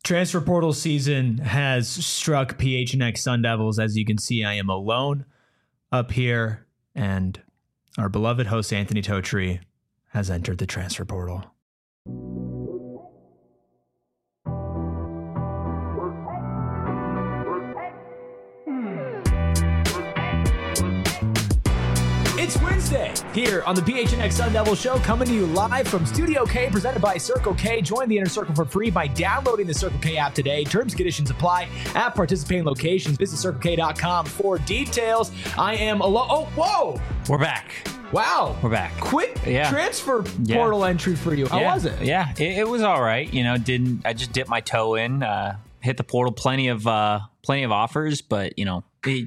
Transfer portal season has struck PHNX Sun Devils. As you can see, I am alone up here, and our beloved host Anthony Totri has entered the transfer portal. It's Wednesday here on the PHNX Sun Devil Show, coming to you live from Studio K, presented by Circle K. Join the Inner Circle for free by downloading the Circle K app today. Terms and conditions apply at participating locations. Visit CircleK.com for details. I am alone. Oh, whoa! We're back. Wow. We're back. Quick transfer portal entry for you. How was it? Yeah, it was all right. You know, I just dipped my toe in, hit the portal, plenty of offers, but you know,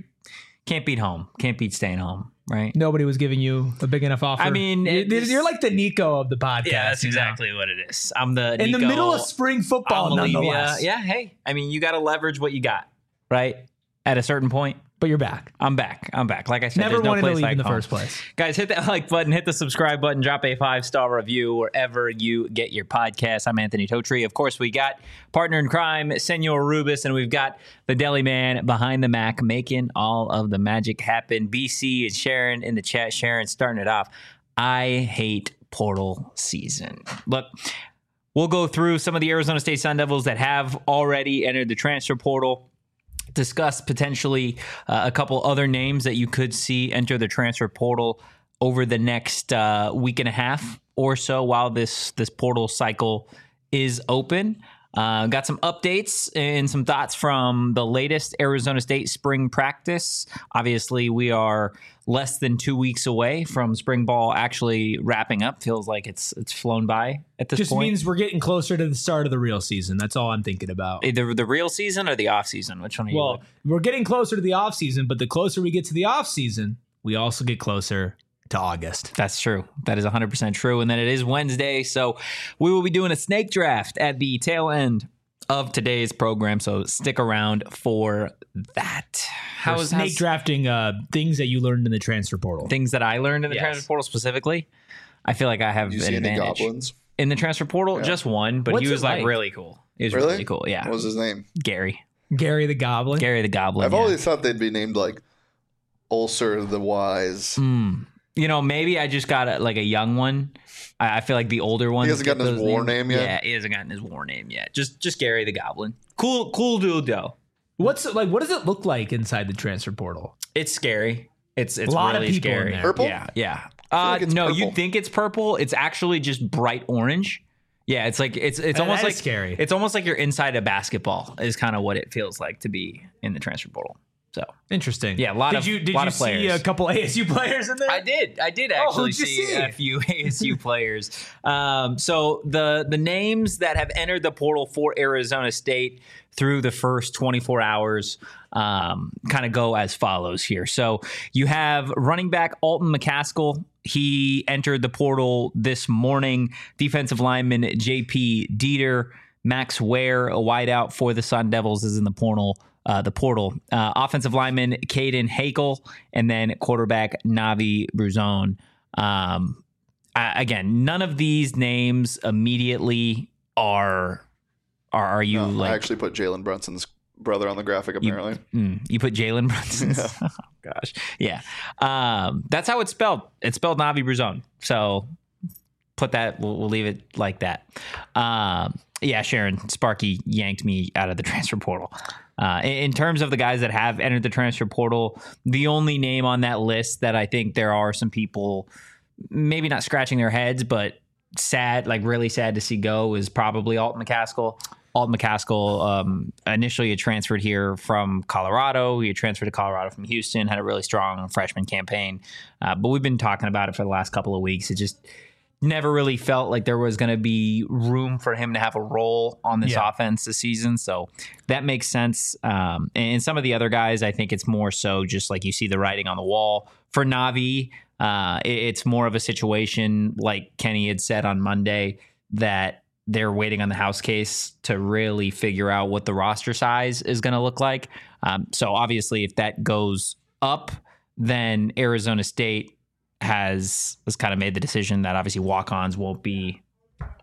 can't beat home. Can't beat staying home. Right. Nobody was giving you a big enough offer. I mean, you're like the Nico of the podcast. Yeah, that's exactly what it is. I'm the Nico, in the middle of spring football, nonetheless. Yeah. Hey, I mean, you got to leverage what you got, right? At a certain point. But you're back. I'm back. Like I said, never wanted to leave like in the home. first place. Guys, hit that like button, hit the subscribe button, drop a 5-star review wherever you get your podcast. I'm Anthony Totri. Of course, we got partner in crime, Senor Rubus, and we've got the deli man behind the Mac making all of the magic happen. BC and Sharon in the chat. Sharon starting it off. I hate portal season. Look, we'll go through some of the Arizona State Sun Devils that have already entered the transfer portal. Discuss potentially a couple other names that you could see enter the transfer portal over the next week and a half or so while this portal cycle is open. Got some updates and some thoughts from the latest Arizona State spring practice. Obviously, we are less than 2 weeks away from spring ball actually wrapping up. Feels like it's flown by at this point. Just means we're getting closer to the start of the real season. That's all I'm thinking about. Either the real season or the off season. Which one are you? Well, we're getting closer to the off season, but the closer we get to the off season, we also get closer to August. That's true. That is 100% true. And then it is Wednesday, so we will be doing a snake draft at the tail end of today's program. So stick around for that. How's snake drafting things that you learned in the transfer portal? Things that I learned in the transfer portal specifically. I feel like I have an advantage. Any goblins in the transfer portal? Yeah. Just one, but he was like really cool. He was really cool. Yeah. What was his name? Gary the Goblin. Gary the Goblin. I've always thought they'd be named like Ulcer the Wise. You know, maybe I just got a young one. I feel like the older one. He hasn't gotten his war name yet. Yeah, he hasn't gotten his war name yet. Just Gary the Goblin. Cool dude though. What does it look like inside the transfer portal? It's scary. It's a lot really of people scary. in there. Purple? Yeah. Like no, purple. you think it's purple? It's actually just bright orange. Yeah, it's like it's almost like scary. It's almost like you're inside a basketball. Is kind of what it feels like to be in the transfer portal. So interesting. Yeah, Did you see a couple ASU players in there? I did actually see a few ASU players. So the names that have entered the portal for Arizona State through the first 24 hours kind of go as follows here. So you have running back Alton McCaskill. He entered the portal this morning. Defensive lineman JP Dieter. Max Ware, a wideout for the Sun Devils, is in the portal. Offensive lineman Caden Hakel, and then quarterback Navi Bruzone. Again, none of these names immediately are you like? I actually put Jalen Brunson's brother on the graphic. Apparently, you put Jalen Brunson's. Yeah. Oh, gosh, yeah. That's how it's spelled. It's spelled Navi Bruzone. So put that. We'll leave it like that. Yeah, Sharon, Sparky yanked me out of the transfer portal. In terms of the guys that have entered the transfer portal, the only name on that list that I think there are some people maybe not scratching their heads, but really sad to see go is probably Alton McCaskill. Alton McCaskill initially had transferred here from Colorado. He had transferred to Colorado from Houston, had a really strong freshman campaign. But we've been talking about it for the last couple of weeks. It just never really felt like there was going to be room for him to have a role on this offense this season. So that makes sense. And some of the other guys, I think it's more so just like you see the writing on the wall. For Navi, it's more of a situation like Kenny had said on Monday that they're waiting on the house case to really figure out what the roster size is going to look like. So obviously if that goes up, then Arizona State has kind of made the decision that obviously walk-ons won't be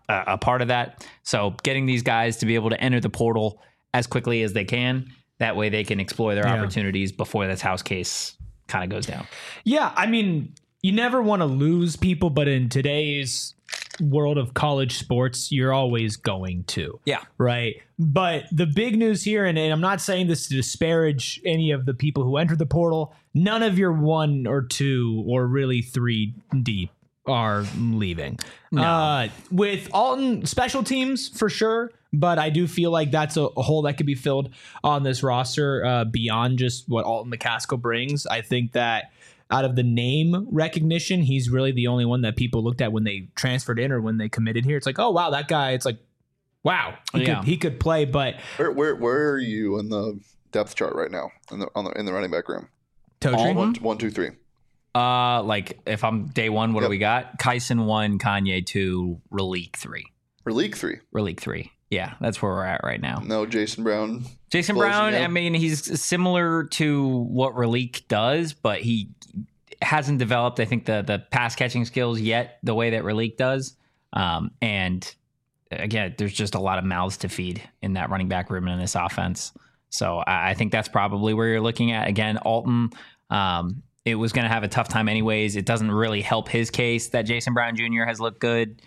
a part of that. So getting these guys to be able to enter the portal as quickly as they can, that way they can explore their opportunities before this house case kind of goes down. Yeah, I mean, you never want to lose people, but in today's world of college sports, you're always going to. Yeah. Right. But the big news here, and I'm not saying this to disparage any of the people who entered the portal, none of your 1 or 2 or really 3 deep are leaving. No. With Alton, special teams for sure, but I do feel like that's a hole that could be filled on this roster beyond just what Alton McCaskill brings. I think that out of the name recognition, he's really the only one that people looked at when they transferred in or when they committed here. It's like, oh wow, that guy. It's like, wow, he could play. But where are you in the depth chart right now in the running back room? Totri? 1, 2, 3. Like if I'm day 1, what do we got? Kyson 1, Kanye 2, Raleek 3. Raleek 3. Yeah, that's where we're at right now. No Jason Brown. Jason Brown, I mean, he's similar to what Raleek does, but he hasn't developed, I think, the pass catching skills yet the way that Raleek does. And again, there's just a lot of mouths to feed in that running back room in this offense. So I think that's probably where you're looking at. Again, Alton, it was going to have a tough time anyways. It doesn't really help his case that Jason Brown Jr. has looked good.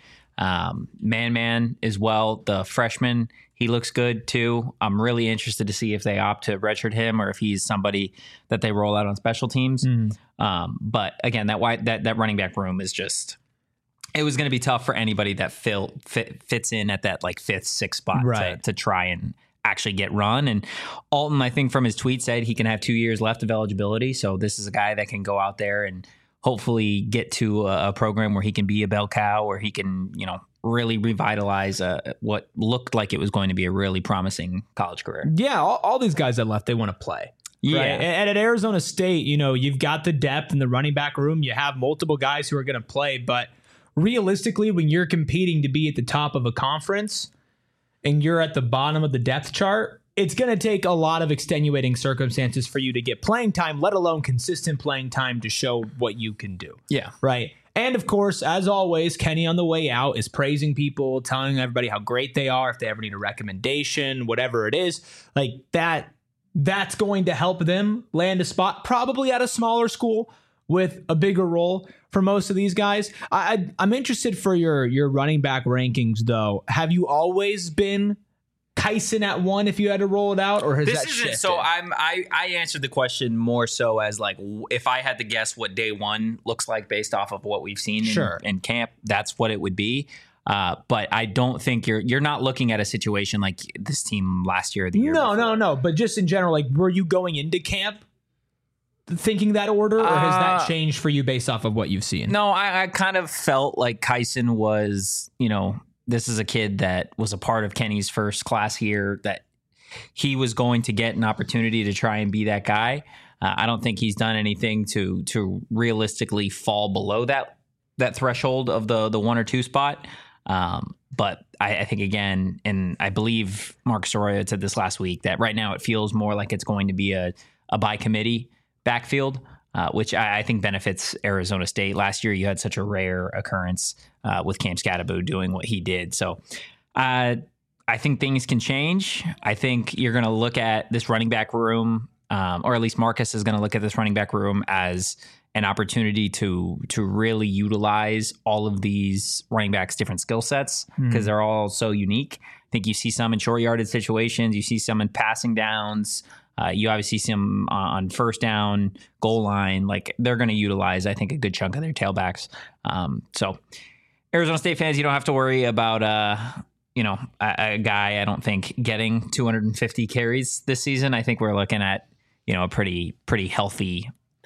Man as well, the freshman, he looks good too. I'm really interested to see if they opt to redshirt him or if he's somebody that they roll out on special teams. But again, that running back room is just, it was going to be tough for anybody that fits in at that like 5th, 6th spot to try and actually get run. And Alton, I think from his tweet said he can have 2 years left of eligibility. So this is a guy that can go out there and hopefully get to a program where he can be a bell cow, where he can, really revitalize what looked like it was going to be a really promising college career. Yeah, all these guys that left, they want to play. Yeah. Right? And at Arizona State, you've got the depth in the running back room. You have multiple guys who are going to play. But realistically, when you're competing to be at the top of a conference and you're at the bottom of the depth chart, it's going to take a lot of extenuating circumstances for you to get playing time, let alone consistent playing time to show what you can do. Yeah. Right. And of course, as always, Kenny on the way out is praising people, telling everybody how great they are. If they ever need a recommendation, whatever it is, like that's going to help them land a spot, probably at a smaller school with a bigger role for most of these guys. I'm interested for your running back rankings, though. Have you always been Kyson at 1 if you had to roll it out, or has that shifted? So I answered the question more so as like, if I had to guess what day 1 looks like based off of what we've seen in camp, that's what it would be. But I don't think you're not looking at a situation like this team last year or the year before. No. But just in general, like, were you going into camp thinking that order, or has that changed for you based off of what you've seen? No, I kind of felt like Kyson was, this is a kid that was a part of Kenny's first class here, that he was going to get an opportunity to try and be that guy. I don't think he's done anything to realistically fall below that threshold of the 1 or 2 spot. But I think, again, and I believe Marcus Arroyo said this last week, that right now it feels more like it's going to be a by committee backfield, which I think benefits Arizona State. Last year, you had such a rare occurrence with Cam Scatterbo doing what he did. So I think things can change. I think you're going to look at this running back room, or at least Marcus is going to look at this running back room as an opportunity to really utilize all of these running backs' different skill sets, because they're all so unique. I think you see some in short yardage situations. You see some in passing downs. You obviously see them on first down, goal line. Like, they're going to utilize, I think, a good chunk of their tailbacks. So Arizona State fans, you don't have to worry about, a guy, I don't think, getting 250 carries this season. I think we're looking at, a pretty healthy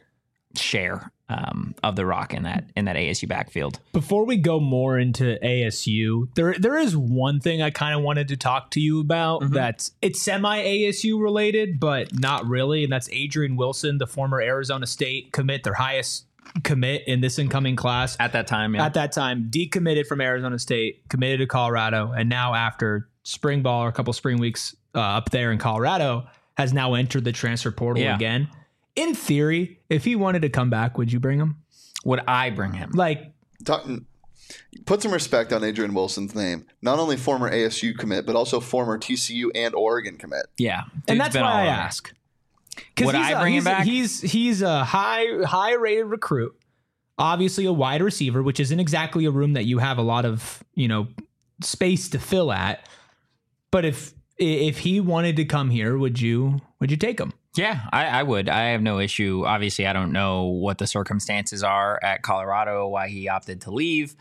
share of the rock in that ASU backfield. Before we go more into ASU, there is one thing I kind of wanted to talk to you about that's it's semi ASU related, but not really, and that's Adrian Wilson, the former Arizona State commit, their highest commit in this incoming class at that time. Yeah. At that time, decommitted from Arizona State, committed to Colorado, and now after spring ball or a couple spring weeks up there in Colorado, has now entered the transfer portal again. In theory, if he wanted to come back, would you bring him? Would I bring him? Like, Put some respect on Adrian Wilson's name. Not only former ASU commit, but also former TCU and Oregon commit. Yeah, and that's why I ask. Would I bring him back? He's a high rated recruit. Obviously, a wide receiver, which isn't exactly a room that you have a lot of space to fill at. But if he wanted to come here, would you take him? Yeah, I would. I have no issue. Obviously, I don't know what the circumstances are at Colorado, why he opted to leave.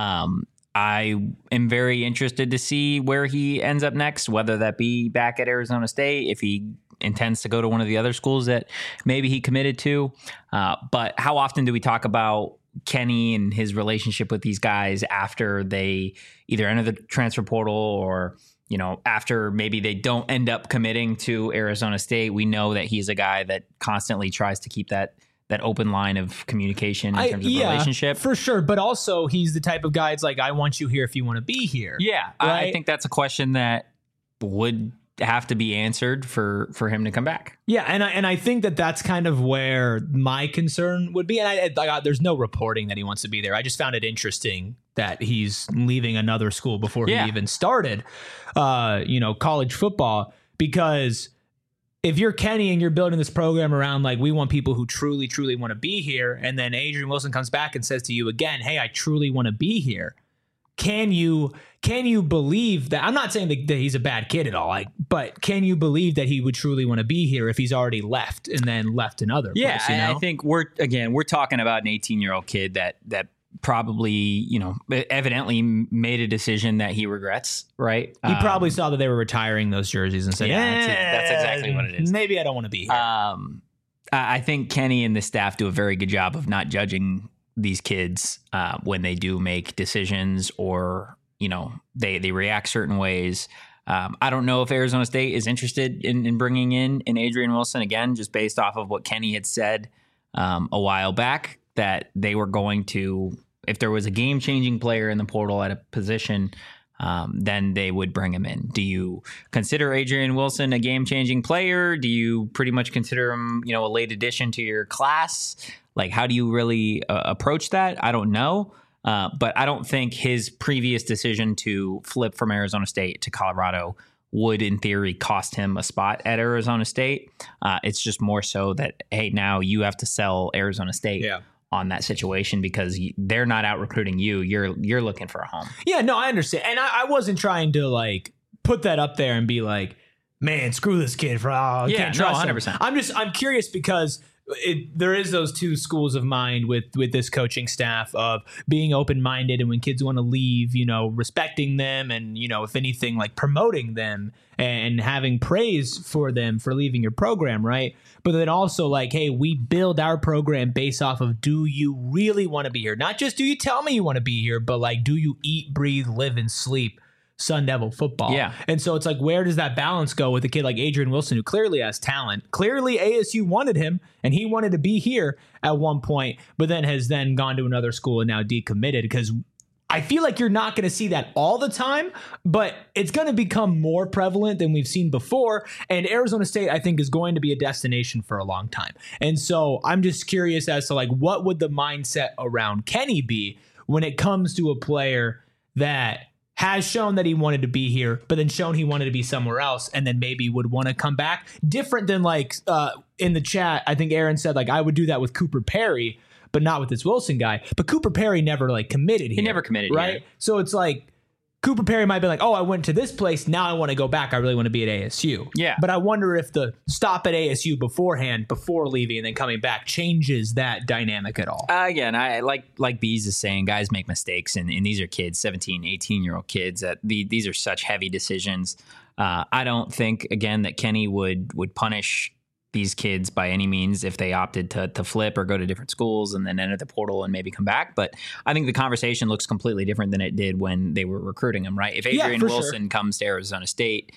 I am very interested to see where he ends up next, whether that be back at Arizona State, if he intends to go to one of the other schools that maybe he committed to. But how often do we talk about Kenny and his relationship with these guys after they either enter the transfer portal or after maybe they don't end up committing to Arizona State? We know that he's a guy that constantly tries to keep that open line of communication in terms of relationship. For sure. But also he's the type of guy, it's like, I want you here if you want to be here. Yeah. Right? I think that's a question that would have to be answered for him to come back. Yeah. And I think that's kind of where my concern would be. And there's no reporting that he wants to be there. I just found it interesting that he's leaving another school before he even started, college football, because if you're Kenny and you're building this program around like, we want people who truly, truly want to be here. And then Adrian Wilson comes back and says to you again, hey, I truly want to be here. Can you believe that? I'm not saying that he's a bad kid at all, but can you believe that he would truly want to be here if he's already left and then left another place? Yeah, I think we're talking about an 18-year-old kid that probably, evidently made a decision that he regrets, right? He probably saw that they were retiring those jerseys and said, that's exactly what it is. Maybe I don't want to be here. I think Kenny and the staff do a very good job of not judging these kids when they do make decisions or, they react certain ways. I don't know if Arizona State is interested in bringing in Adrian Wilson again, just based off of what Kenny had said a while back, that they were going to, if there was a game-changing player in the portal at a position, then they would bring him in. Do you consider Adrian Wilson a game-changing player? Do you pretty much consider him, a late addition to your class? Like, how do you really approach that? I don't know. But I don't think his previous decision to flip from Arizona State to Colorado would, in theory, cost him a spot at Arizona State. It's just more so that, hey, now you have to sell Arizona State on that situation because they're not out recruiting you. You're looking for a home. Yeah, no, I understand. And I wasn't trying to put that up there and be like, man, screw this kid can't trust 100%. Him. I'm curious because there is those two schools of mind with this coaching staff of being open-minded and when kids want to leave, respecting them and, if anything, promoting them and having praise for them for leaving your program, right? But then also hey, we build our program based off of, do you really want to be here? Not just do you tell me you want to be here, but do you eat, breathe, live, and sleep Sun Devil football? Yeah. And so it's where does that balance go with a kid like Adrian Wilson, who clearly has talent? Clearly ASU wanted him and he wanted to be here at one point, but then has then gone to another school and now decommitted, because I feel like you're not going to see that all the time, but it's going to become more prevalent than we've seen before. And Arizona State, I think, is going to be a destination for a long time. And so I'm just curious as to what would the mindset around Kenny be when it comes to a player that has shown that he wanted to be here, but then shown he wanted to be somewhere else, and then maybe would want to come back. Different than in the chat, I think Aaron said I would do that with Cooper Perry, but not with this Wilson guy. But Cooper Perry never committed here. He never committed, right? Here. So it's Cooper Perry might be oh, I went to this place, now I want to go back. I really want to be at ASU. Yeah. But I wonder if the stop at ASU beforehand, before leaving and then coming back, changes that dynamic at all. Again, I like Bees is saying, guys make mistakes, and these are kids, 17, 18-year-old kids. These are such heavy decisions. I don't think, again, that Kenny would punish these kids by any means if they opted to flip or go to different schools and then enter the portal and maybe come back. But I think the conversation looks completely different than it did when they were recruiting him, right? If Adrian Wilson comes to Arizona State,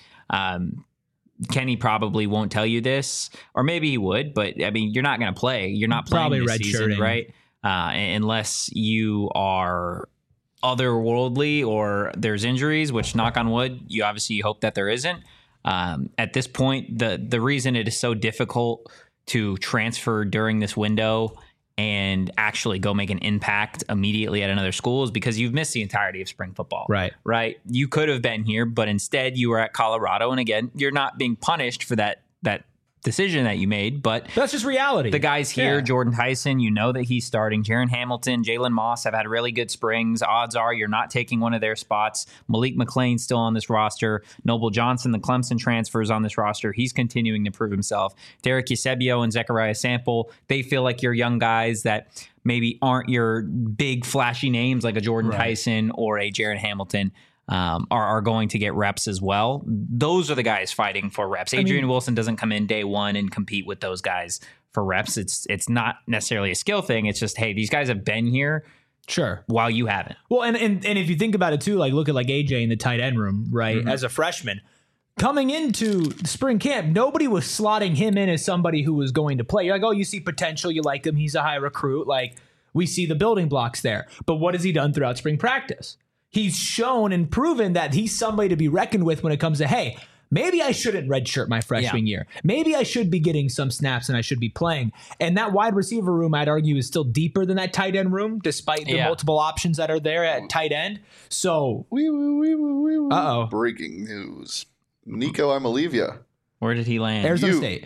Kenny probably won't tell you this, or maybe he would, but you're not going to play. You're not playing probably this season, right? Unless you are otherworldly or there's injuries, which, knock on wood, you obviously hope that there isn't. At this point, the reason it is so difficult to transfer during this window and actually go make an impact immediately at another school is because you've missed the entirety of spring football. Right. You could have been here, but instead you were at Colorado. And again, you're not being punished for that decision that you made, but that's just reality. The guys here, Jordan Tyson, you know that he's starting. Jaron Hamilton, Jalen Moss have had really good springs. Odds are you're not taking one of their spots. Malik McClain still on this roster. Noble Johnson, the Clemson transfer, is on this roster. He's continuing to prove himself. Derek Eusebio and Zechariah Sample, they feel like you're young guys that maybe aren't your big flashy names like a Jordan Tyson or a Jaron Hamilton. Are going to get reps as well. Those are the guys fighting for reps. Adrian Wilson doesn't come in day one and compete with those guys for reps. It's not necessarily a skill thing. It's just, hey, these guys have been here while you haven't. Well, and if you think about it too, like look at like AJ in the tight end room, right? As a freshman coming into spring camp, nobody was slotting him in as somebody who was going to play. You're like, oh, you see potential, you like him, he's a high recruit, like we see the building blocks there. But what has he done throughout spring practice? He's shown and proven that he's somebody to be reckoned with when it comes to, hey, maybe I shouldn't redshirt my freshman year. Maybe I should be getting some snaps and I should be playing. And that wide receiver room, I'd argue, is still deeper than that tight end room, despite the multiple options that are there at tight end. So, breaking news. Nico Amalivia. Where did he land? Arizona State.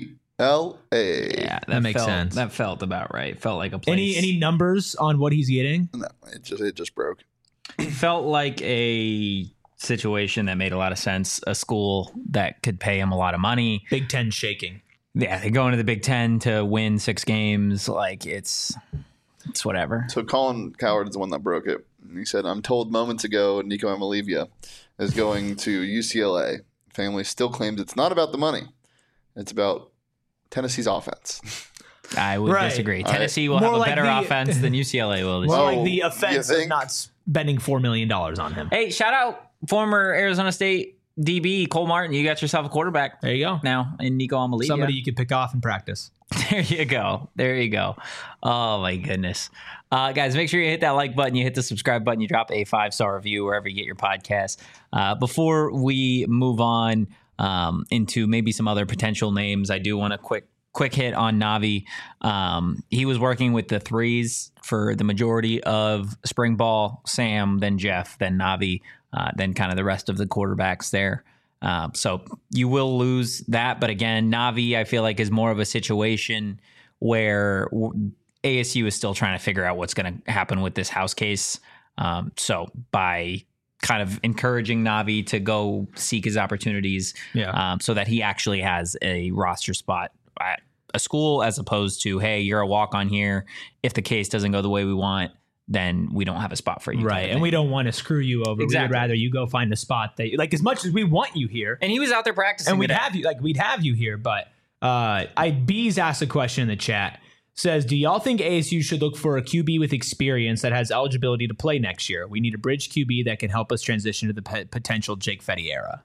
UCLA. Yeah, that makes sense. That felt about right. Felt like a place. Any numbers on what he's getting? No, it just broke. Felt like a situation that made a lot of sense. A school that could pay him a lot of money. Big Ten shaking. Yeah, they go into the Big Ten to win 6 games. Like it's whatever. So Colin Coward is the one that broke it. He said, "I'm told moments ago Nico Amalivia is going to UCLA. Family still claims it's not about the money. It's about Tennessee's offense." I would disagree. Tennessee will have a better offense than UCLA will this year. Like the offense is not spending $4 million on him. Hey, shout out former Arizona State DB Cole Martin. You got yourself a quarterback. There you go. Now in Nico Amalivia. Somebody you could pick off in practice. There you go. Oh my goodness. Guys, make sure you hit that like button, you hit the subscribe button, you drop a 5-star review wherever you get your podcast. Before we move on into maybe some other potential names, I do want to quick hit on Navi. He was working with the threes for the majority of spring ball. Sam, then Jeff, then Navi, then kind of the rest of the quarterbacks there. So you will lose that. But again, Navi, I feel like, is more of a situation where ASU is still trying to figure out what's going to happen with this house case. So by kind of encouraging Navi to go seek his opportunities so that he actually has a roster spot at a school, as opposed to, hey, you're a walk-on here. If the case doesn't go the way we want, then we don't have a spot for you. Right. And we don't want to screw you over. Exactly. We'd rather you go find a spot that, like, as much as we want you here. And he was out there practicing. And we'd have you here. But Bees asked a question in the chat. Says, do y'all think ASU should look for a QB with experience that has eligibility to play next year? We need a bridge QB that can help us transition to the potential Jake Fetty era.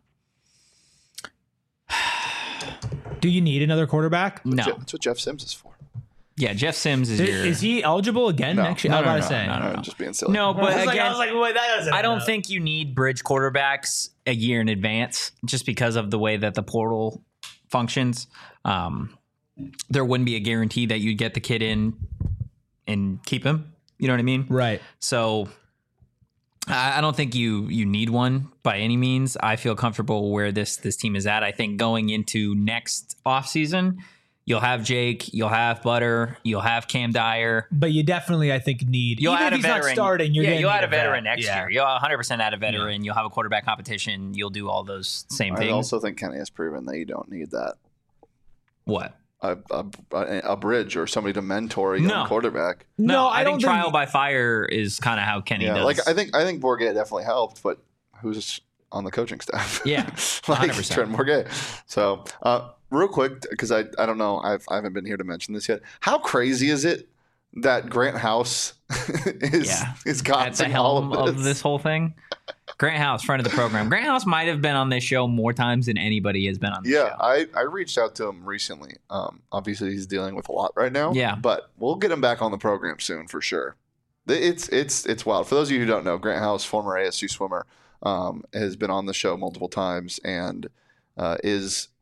Do you need another quarterback? No. That's what Jeff Sims is for. Yeah, Jeff Sims is your... Is he eligible again next year? No, Just being silly. No, but I again, was like, wait, that doesn't I don't think you need bridge quarterbacks a year in advance just because of the way that the portal functions. There wouldn't be a guarantee that you'd get the kid in and keep him. You know what I mean? Right. So I don't think you need one by any means. I feel comfortable where this team is at. I think going into next offseason, you'll have Jake, you'll have Butter, you'll have Cam Dyer. But you definitely, I think, need... You'll even add if he's a veteran. Not starting, you'll add a veteran next year. You'll 100% add a veteran. You'll have a quarterback competition. You'll do all those same things. I also think Kenny has proven that you don't need that. What? A bridge or somebody to mentor a young quarterback. No, I think trial by fire is kind of how Kenny does. Like I think Bourget definitely helped, but who's on the coaching staff? Yeah, 100%. Trent Bourget. So real quick, because I don't know, I haven't been here to mention this yet. How crazy is it that Grant House is caught at the helm of this whole thing? Grant House, friend of the program. Grant House might have been on this show more times than anybody has been on this show. Yeah, I reached out to him recently. Obviously, he's dealing with a lot right now. Yeah. But we'll get him back on the program soon for sure. It's wild. For those of you who don't know, Grant House, former ASU swimmer, has been on the show multiple times and is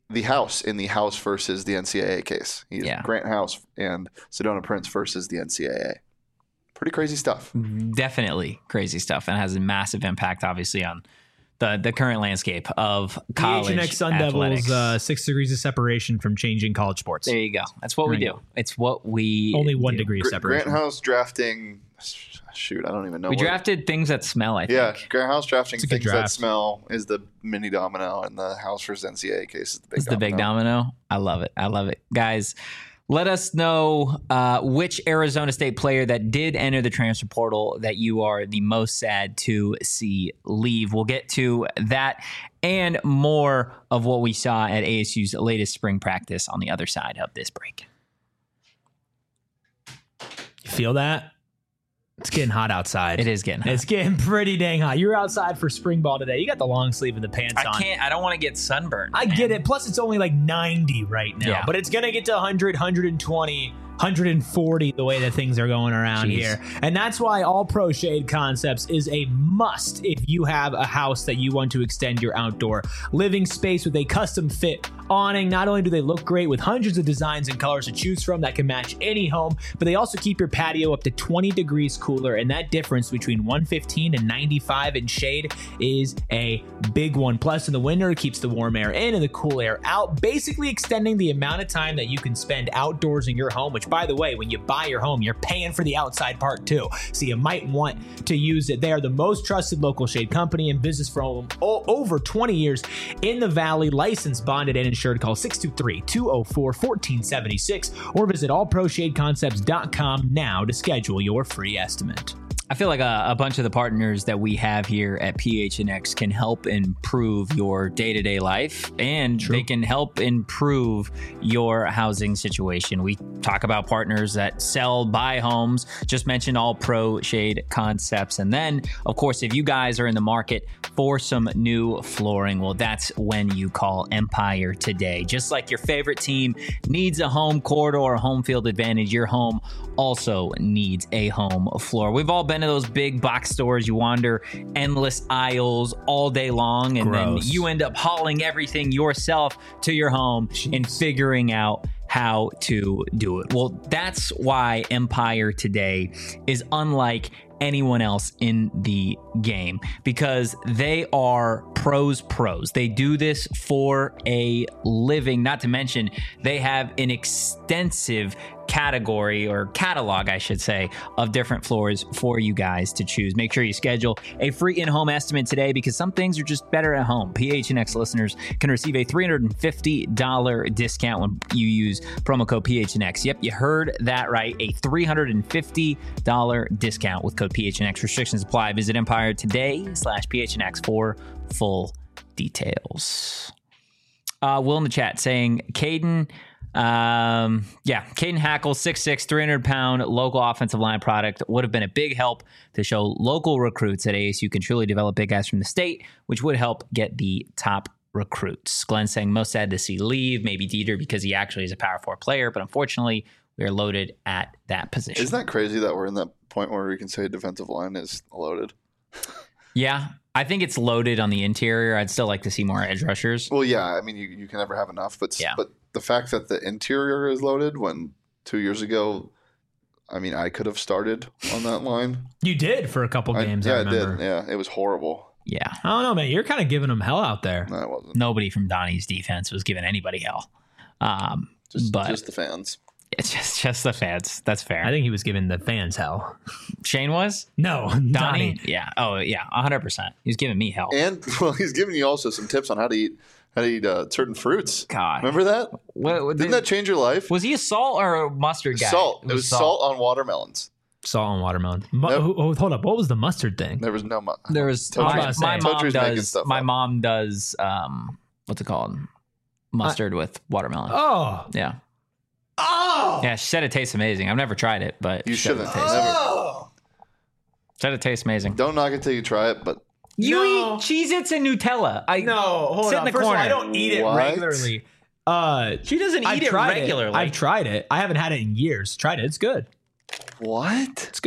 the House in the House versus the NCAA case. He's Grant House and Sedona Prince versus the NCAA. Pretty crazy stuff. Definitely crazy stuff, and has a massive impact, obviously, on the current landscape of college PHNX Sun athletics. Devils, 6 degrees of separation from changing college sports. There you go. That's what we do. It's what we only 1 do. degree of separation. Grant House drafting. Shoot, I don't even know. We drafted things that smell. I think. Yeah, Grant House drafting things draft. that smell is the mini domino, and the House versus NCAA case is the big. It's the big domino. I love it, guys. Let us know which Arizona State player that did enter the transfer portal that you are the most sad to see leave. We'll get to that and more of what we saw at ASU's latest spring practice on the other side of this break. You feel that? It's getting hot outside. It is getting hot. It's getting pretty dang hot. You're outside for spring ball today. You got the long sleeve and the pants on. I don't want to get sunburned. I get it. Plus, it's only like 90 right now. Yeah. But it's going to get to 100, 120, 140 the way that things are going around here. And that's why All Pro Shade Concepts is a must if you have a house that you want to extend your outdoor living space with a custom fit awning. Not only do they look great with hundreds of designs and colors to choose from that can match any home, but they also keep your patio up to 20 degrees cooler. And that difference between 115 and 95 in shade is a big one. Plus, in the winter, it keeps the warm air in and the cool air out, basically extending the amount of time that you can spend outdoors in your home, which, by the way, when you buy your home, you're paying for the outside part too. So you might want to use it. They are the most trusted local shade company in business for over 20 years in the Valley. Licensed, bonded, and insured. Call 623-204-1476 or visit allproshadeconcepts.com now to schedule your free estimate. I feel like a bunch of the partners that we have here at PHNX can help improve your day-to-day life, and they can help improve your housing situation. We talk about partners that buy homes, just mentioned All Pro Shade Concepts. And then, of course, if you guys are in the market for some new flooring, well, that's when you call Empire today. Just like your favorite team needs a home court or a home field advantage, your home also needs a home floor. We've all been to those big box stores. You wander endless aisles all day long, and then you end up hauling everything yourself to your home and figuring out how to do it. Well, that's why Empire today is unlike anyone else in the game, because they are pros. They do this for a living. Not to mention, they have an extensive category, or catalog, I should say, of different floors for you guys to choose. Make sure you schedule a free in-home estimate today, because some things are just better at home. PHNX listeners can receive a $350 discount when you use promo code PHNX. Yep, you heard that right. A $350 discount with code PHNX. Restrictions apply. Visit Empire today/PHNX for full details. Will in the chat saying Caden Hackle, 6'6", 300-pound local offensive line product would have been a big help to show local recruits that ASU can truly develop big guys from the state, which would help get the top recruits. Glenn saying most sad to see leave, maybe Dieter because he actually is a Power 4 player, but unfortunately we are loaded at that position. Isn't that crazy that we're in that point where we can say defensive line is loaded? Yeah. I think it's loaded on the interior. I'd still like to see more edge rushers. Well, yeah. I mean, you can never have enough, but the fact that the interior is loaded when 2 years ago, I mean, I could have started on that line. You did for a couple games. I remember. I did. Yeah, it was horrible. Yeah. I don't know, man. You're kind of giving them hell out there. No, I wasn't. Nobody from Donnie's defense was giving anybody hell. Just the fans. It's just the fans. That's fair. I think he was giving the fans hell. Shane was? No, Donnie. Yeah. Oh, yeah. 100%. He was giving me hell. And he's giving you also some tips on how to eat certain fruits. God, remember that? Didn't that change your life? Was he a salt or a mustard guy? Salt. It was salt on watermelons. Salt on watermelon. Hold up. What was the mustard thing? There was no mustard. There was. My mom does. What's it called? Mustard with watermelon. Oh. Yeah. Oh. Yeah. She said it tastes amazing. I've never tried it, but you shouldn't. Said it tastes amazing. Don't knock it till you try it, but. You eat Cheez-Its and Nutella. Hold on. In the corner. I don't eat it regularly. She doesn't eat it regularly. I've tried it. I haven't had it in years. Tried it. It's good. What? It's good.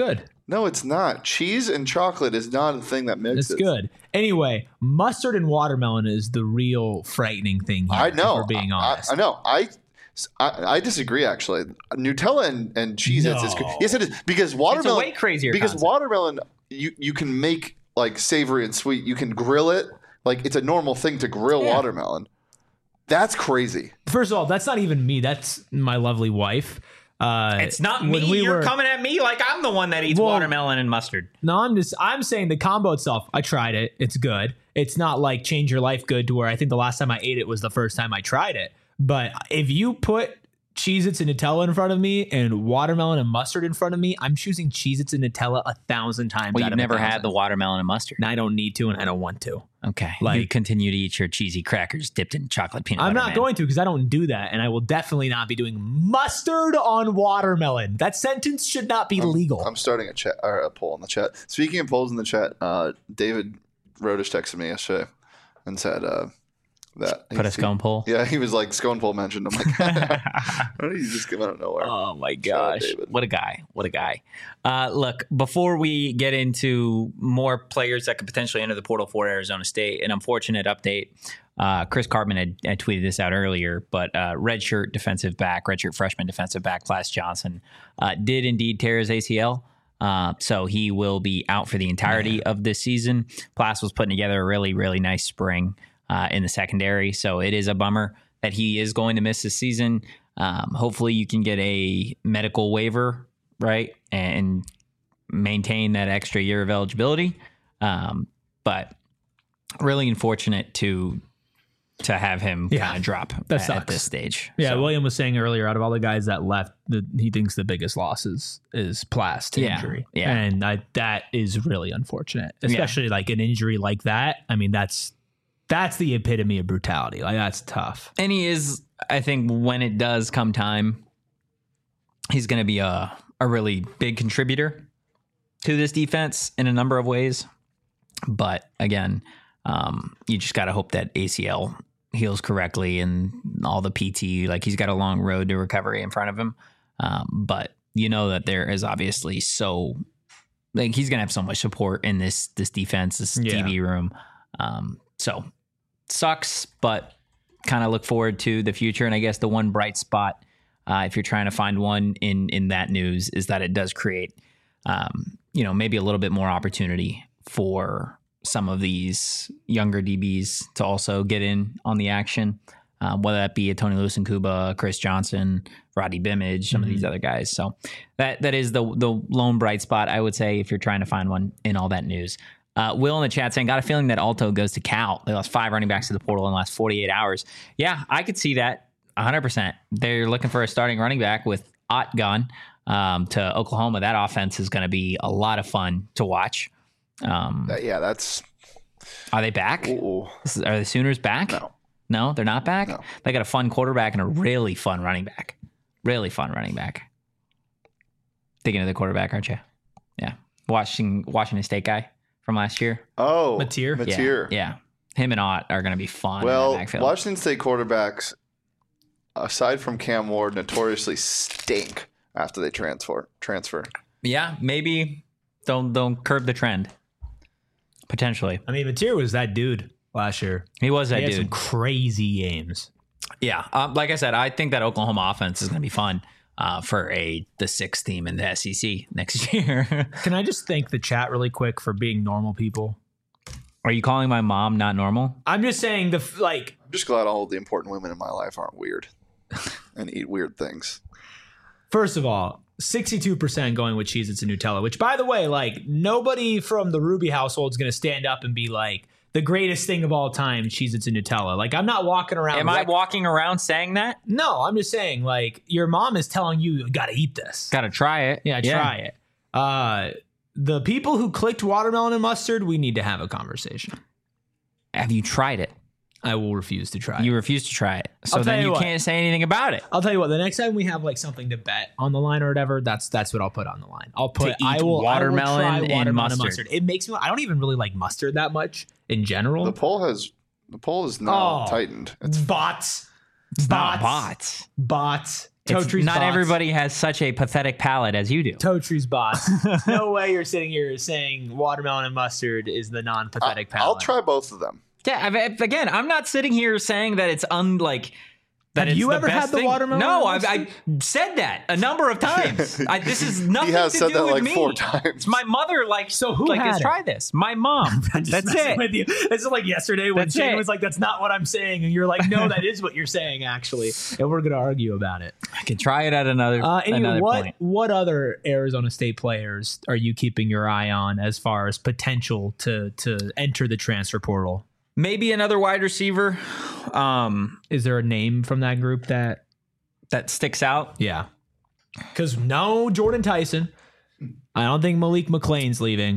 No, it's not. Cheese and chocolate is not a thing that mixes. It's good. Anyway, mustard and watermelon is the real frightening thing here, I know. if we're being honest. I know. I disagree, actually. Nutella and Cheez-Its is good. Yes, it is. Because watermelon... It's a way crazier Because concept. watermelon, you can make, like, savory and sweet. You can grill it. Like, it's a normal thing to grill watermelon. That's crazy. First of all, that's not even me. That's my lovely wife. It's not me. You're coming at me like I'm the one that eats watermelon and mustard. No, I'm saying the combo itself. I tried it. It's good. It's not like change your life good to where I think the last time I ate it was the first time I tried it. But if you put Cheez-Its and Nutella in front of me and watermelon and mustard in front of me, I'm choosing Cheez-Its and Nutella 1,000 times. Well, you've never had the watermelon and mustard. And I don't need to, and I don't want to. Okay. Like, you continue to eat your cheesy crackers dipped in chocolate peanut butter. I'm not going to, because I don't do that, and I will definitely not be doing mustard on watermelon. That sentence should not be legal. I'm starting a chat or a poll in the chat. Speaking of polls in the chat, David Rodish texted me yesterday and said that put a scone poll. Yeah, he was like scone poll mentioned. I'm like, how did he just come out of nowhere? Oh my gosh, what a guy! What a guy! Look, before we get into more players that could potentially enter the portal for Arizona State, an unfortunate update. Chris Cartman had tweeted this out earlier, but redshirt freshman defensive back Plas Johnson did indeed tear his ACL. So he will be out for the entirety of this season. Plas was putting together a really, really nice spring in the secondary. So it is a bummer that he is going to miss this season. Hopefully you can get a medical waiver, right? And maintain that extra year of eligibility. But really unfortunate to have him kind of drop at this stage. Yeah, so. William was saying earlier, out of all the guys that left, he thinks the biggest loss is Plas to injury. Yeah. And that is really unfortunate, especially like an injury like that. I mean, that's the epitome of brutality. Like, that's tough. And he is, I think, when it does come time, he's going to be a really big contributor to this defense in a number of ways. But again, you just got to hope that ACL heals correctly and all the PT, like he's got a long road to recovery in front of him. But you know that there is obviously he's going to have so much support in this defense, this DB room. So sucks, but kind of look forward to the future. And I guess the one bright spot, if you're trying to find one in that news, is that it does create, maybe a little bit more opportunity for some of these younger DBs to also get in on the action, whether that be a Tony Lewis and Kuba, Chris Johnson, Roddy Bimmage, some of these other guys. So that is the lone bright spot, I would say, if you're trying to find one in all that news. Will in the chat saying, got a feeling that Alto goes to Cal. They lost 5 running backs to the portal in the last 48 hours. Yeah, I could see that 100%. They're looking for a starting running back with Ott gone to Oklahoma. That offense is going to be a lot of fun to watch. That's. Are they back? Ooh. Are the Sooners back? No, they're not back. No. They got a fun quarterback and a really fun running back. Really fun running back. Thinking of the quarterback, aren't you? Yeah, Washington State guy from last year. Oh, Mateer. Yeah. Him and Ott are going to be fun. Well, in the backfield. Washington State quarterbacks, aside from Cam Ward, notoriously stink after they transfer. Yeah, maybe don't curb the trend. Potentially. I mean, Mateer was that dude last year. He was that dude. He had some crazy games. Yeah. Like I said, I think that Oklahoma offense is going to be fun for the 6th team in the SEC next year. Can I just thank the chat really quick for being normal people? Are you calling my mom not normal? I'm just saying I'm just glad all of the important women in my life aren't weird and eat weird things. First of all, 62% going with Cheez-Its and Nutella, which, by the way, like, nobody from the Ruby household is going to stand up and be like, the greatest thing of all time, Cheez-Its and Nutella. Like, I'm not walking around. Am I walking around saying that? No, I'm just saying, like, your mom is telling you got to eat this. Got to try it. Yeah, try it. The people who clicked watermelon and mustard, we need to have a conversation. Have you tried it? I will refuse to try it. You refuse to try it. So then you can't say anything about it. I'll tell you what, the next time we have like something to bet on the line or whatever, that's what I'll put on the line. I will try watermelon and mustard. It makes me, I don't even really like mustard that much in general. The poll is now tightened. It's bots. Totree's not bots. everybody has such a pathetic palate as you do. Totree's bots. No way you're sitting here saying watermelon and mustard is the non-pathetic palate. I'll try both of them. Yeah, again, I'm not sitting here saying that it's that Have it's you the ever best had the thing. watermelon No, and I said that a number of times. This is nothing He has to said do that with like me. 4 times. My mother So who has had it? tried this. My mom. I'm just That's messing it. with you. This is like yesterday when That's Shane it. was like, "That's not what I'm saying," and you're like, "No, that is what you're saying, actually." And we're gonna argue about it. I can try it at another Anyway, point. what other Arizona State players are you keeping your eye on as far as potential to enter the transfer portal? Maybe another wide receiver. Is there a name from that group that? That sticks out. Yeah, because no Jordan Tyson. I don't think Malik McLean's leaving.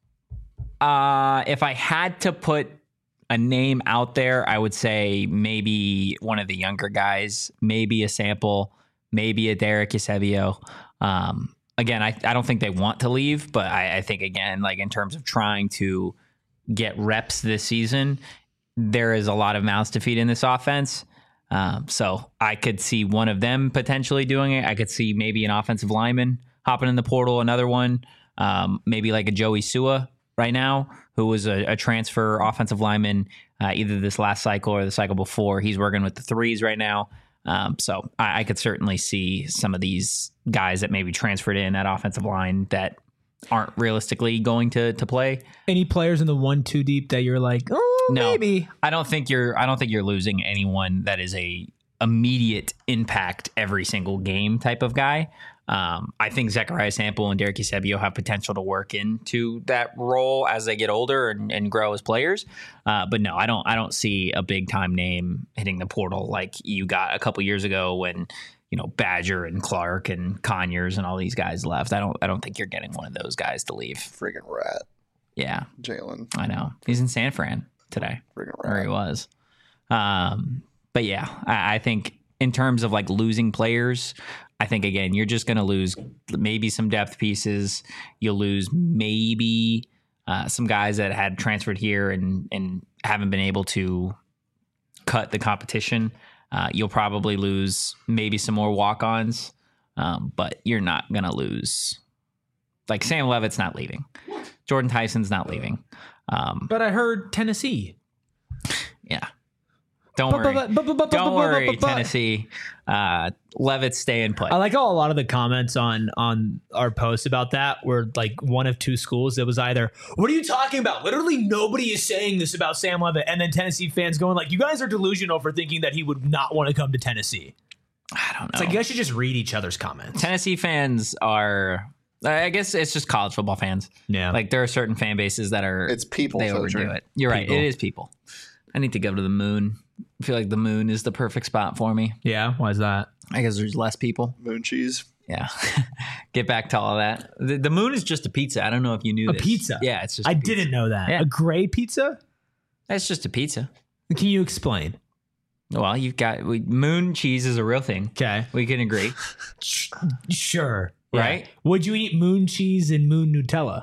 If I had to put a name out there, I would say maybe one of the younger guys, maybe a Sample, maybe a Derek Eusebio. Again, I don't think they want to leave, but I think, again, like in terms of trying to get reps this season, there is a lot of mouths to feed in this offense. So I could see one of them potentially doing it. I could see maybe an offensive lineman hopping in the portal, another one, maybe like a Joey Sua right now, who was a transfer offensive lineman either this last cycle or the cycle before. He's working with the threes right now. So I could certainly see some of these guys that maybe transferred in that offensive line that aren't realistically going to play. Any players in the 1-2 deep that you're like, oh, No, maybe? I don't think you're losing anyone that is a immediate impact every single game type of guy. I think Zechariah Sample and Derek Eusebio have potential to work into that role as they get older and grow as players. But no, I don't see a big time name hitting the portal like you got a couple years ago when, Badger and Clark and Conyers and all these guys left. I don't think you're getting one of those guys to leave. Friggin' rat. Yeah. Jalen. I know. He's in San Fran today. Friggin' Or rat. he was. But yeah, I think in terms of like losing players, I think, again, you're just going to lose maybe some depth pieces. You'll lose maybe some guys that had transferred here and haven't been able to cut the competition. You'll probably lose maybe some more walk-ons, but you're not going to lose. Like Sam Levitt's not leaving. Jordan Tyson's not leaving. But I heard Tennessee. Yeah. Don't worry. Don't worry, Tennessee. Levitt's staying put. I like how a lot of the comments on our post about that were like one of two schools. That was either, what are you talking about? Literally nobody is saying this about Sam Levitt. And then Tennessee fans going like, you guys are delusional for thinking that he would not want to come to Tennessee. I don't know. It's like, you guys should just read each other's comments. Tennessee fans are, I guess it's just college football fans. Yeah. Like there are certain fan bases that are, It's people, they Filter. overdo it. You're right. People. It is people. I need to go to the moon. I feel like the moon is the perfect spot for me. Yeah. Why is that? I guess there's less people. Moon cheese. Yeah. Get back to all of that. The moon is just a pizza. I don't know if you knew A this. pizza? Yeah, it's just I a pizza. didn't know that. Yeah. A gray pizza? It's just a pizza. Can you explain? Well, you've got moon cheese is a real thing. Okay. We can agree. Sure. Right? Yeah. Would you eat moon cheese and moon Nutella?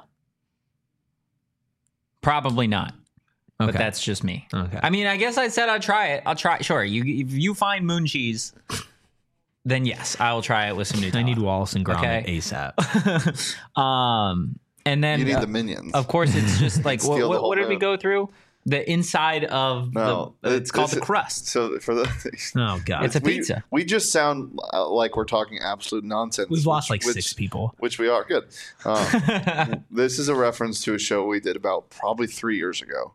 Probably not. Okay. But that's just me. Okay. I mean, I guess I said I'd try it. I'll try. Sure. If you find moon cheese, then yes, I will try it with some Nutella. I need Wallace and Gromit Okay. ASAP. And then You need the minions. of course, it's just like Steal the what whole did we moon. go through? The inside of No, it's called this the is- crust. So for the Oh God. It's a pizza. we just sound like we're talking absolute nonsense. We've lost like which- 6 people. Which we are good. This is a reference to a show we did about probably 3 years ago,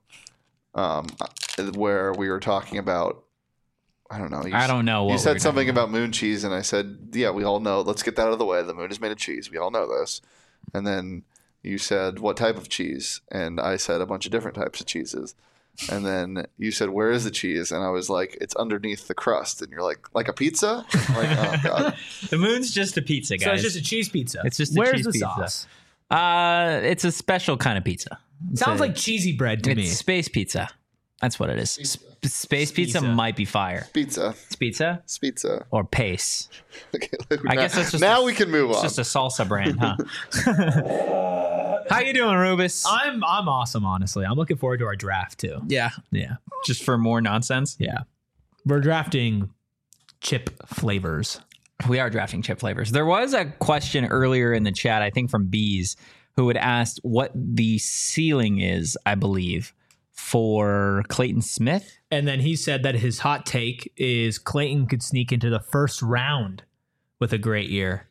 where we were talking about. I don't know. I don't know. What You we said were something talking about moon cheese, and I said, "Yeah, we all know. Let's get that out of the way. The moon is made of cheese. We all know this." And then you said, "What type of cheese?" And I said a bunch of different types of cheeses. And then you said, "Where is the cheese?" And I was like, "It's underneath the crust." And you're like a pizza? I'm like, oh God. The moon's just a pizza, guys. So it's just a cheese pizza. It's just a Where's cheese the pizza. sauce? It's a special kind of pizza. It's Sounds a- like cheesy bread to it's me. space pizza. That's what it is. Space pizza Pizza. might be fire. Pizza. It's pizza Pizza. or pace. Okay, I guess that's just now a- we can move It's on. just a salsa brand, huh? How you doing, Rubus? I'm awesome, honestly. I'm looking forward to our draft too. Yeah, Yeah. just for more nonsense. Yeah. We're drafting chip flavors. We are drafting chip flavors. There was a question earlier in the chat, I think from Bees, who had asked what the ceiling is, I believe, for Clayton Smith. And then he said that his hot take is Clayton could sneak into the first round with a great year.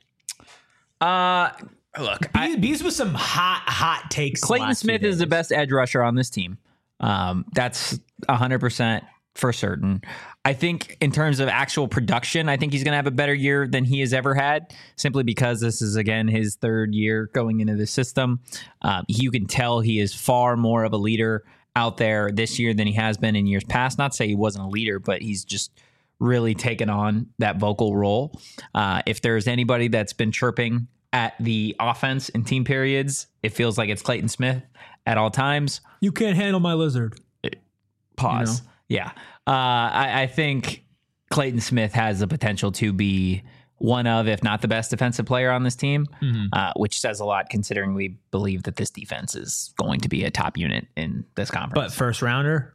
Look, Bees with some hot takes. Clayton Smith is the best edge rusher on this team. That's 100% for certain. I think in terms of actual production, I think he's going to have a better year than he has ever had, simply because this is, again, his third year going into the system. You can tell he is far more of a leader out there this year than he has been in years past. Not to say he wasn't a leader, but he's just really taken on that vocal role. If there's anybody that's been chirping at the offense in team periods, it feels like it's Clayton Smith at all times. You can't handle my lizard. Pause. Yeah. I think Clayton Smith has the potential to be one of, if not the best defensive player on this team, which says a lot considering we believe that this defense is going to be a top unit in this conference. But first rounder?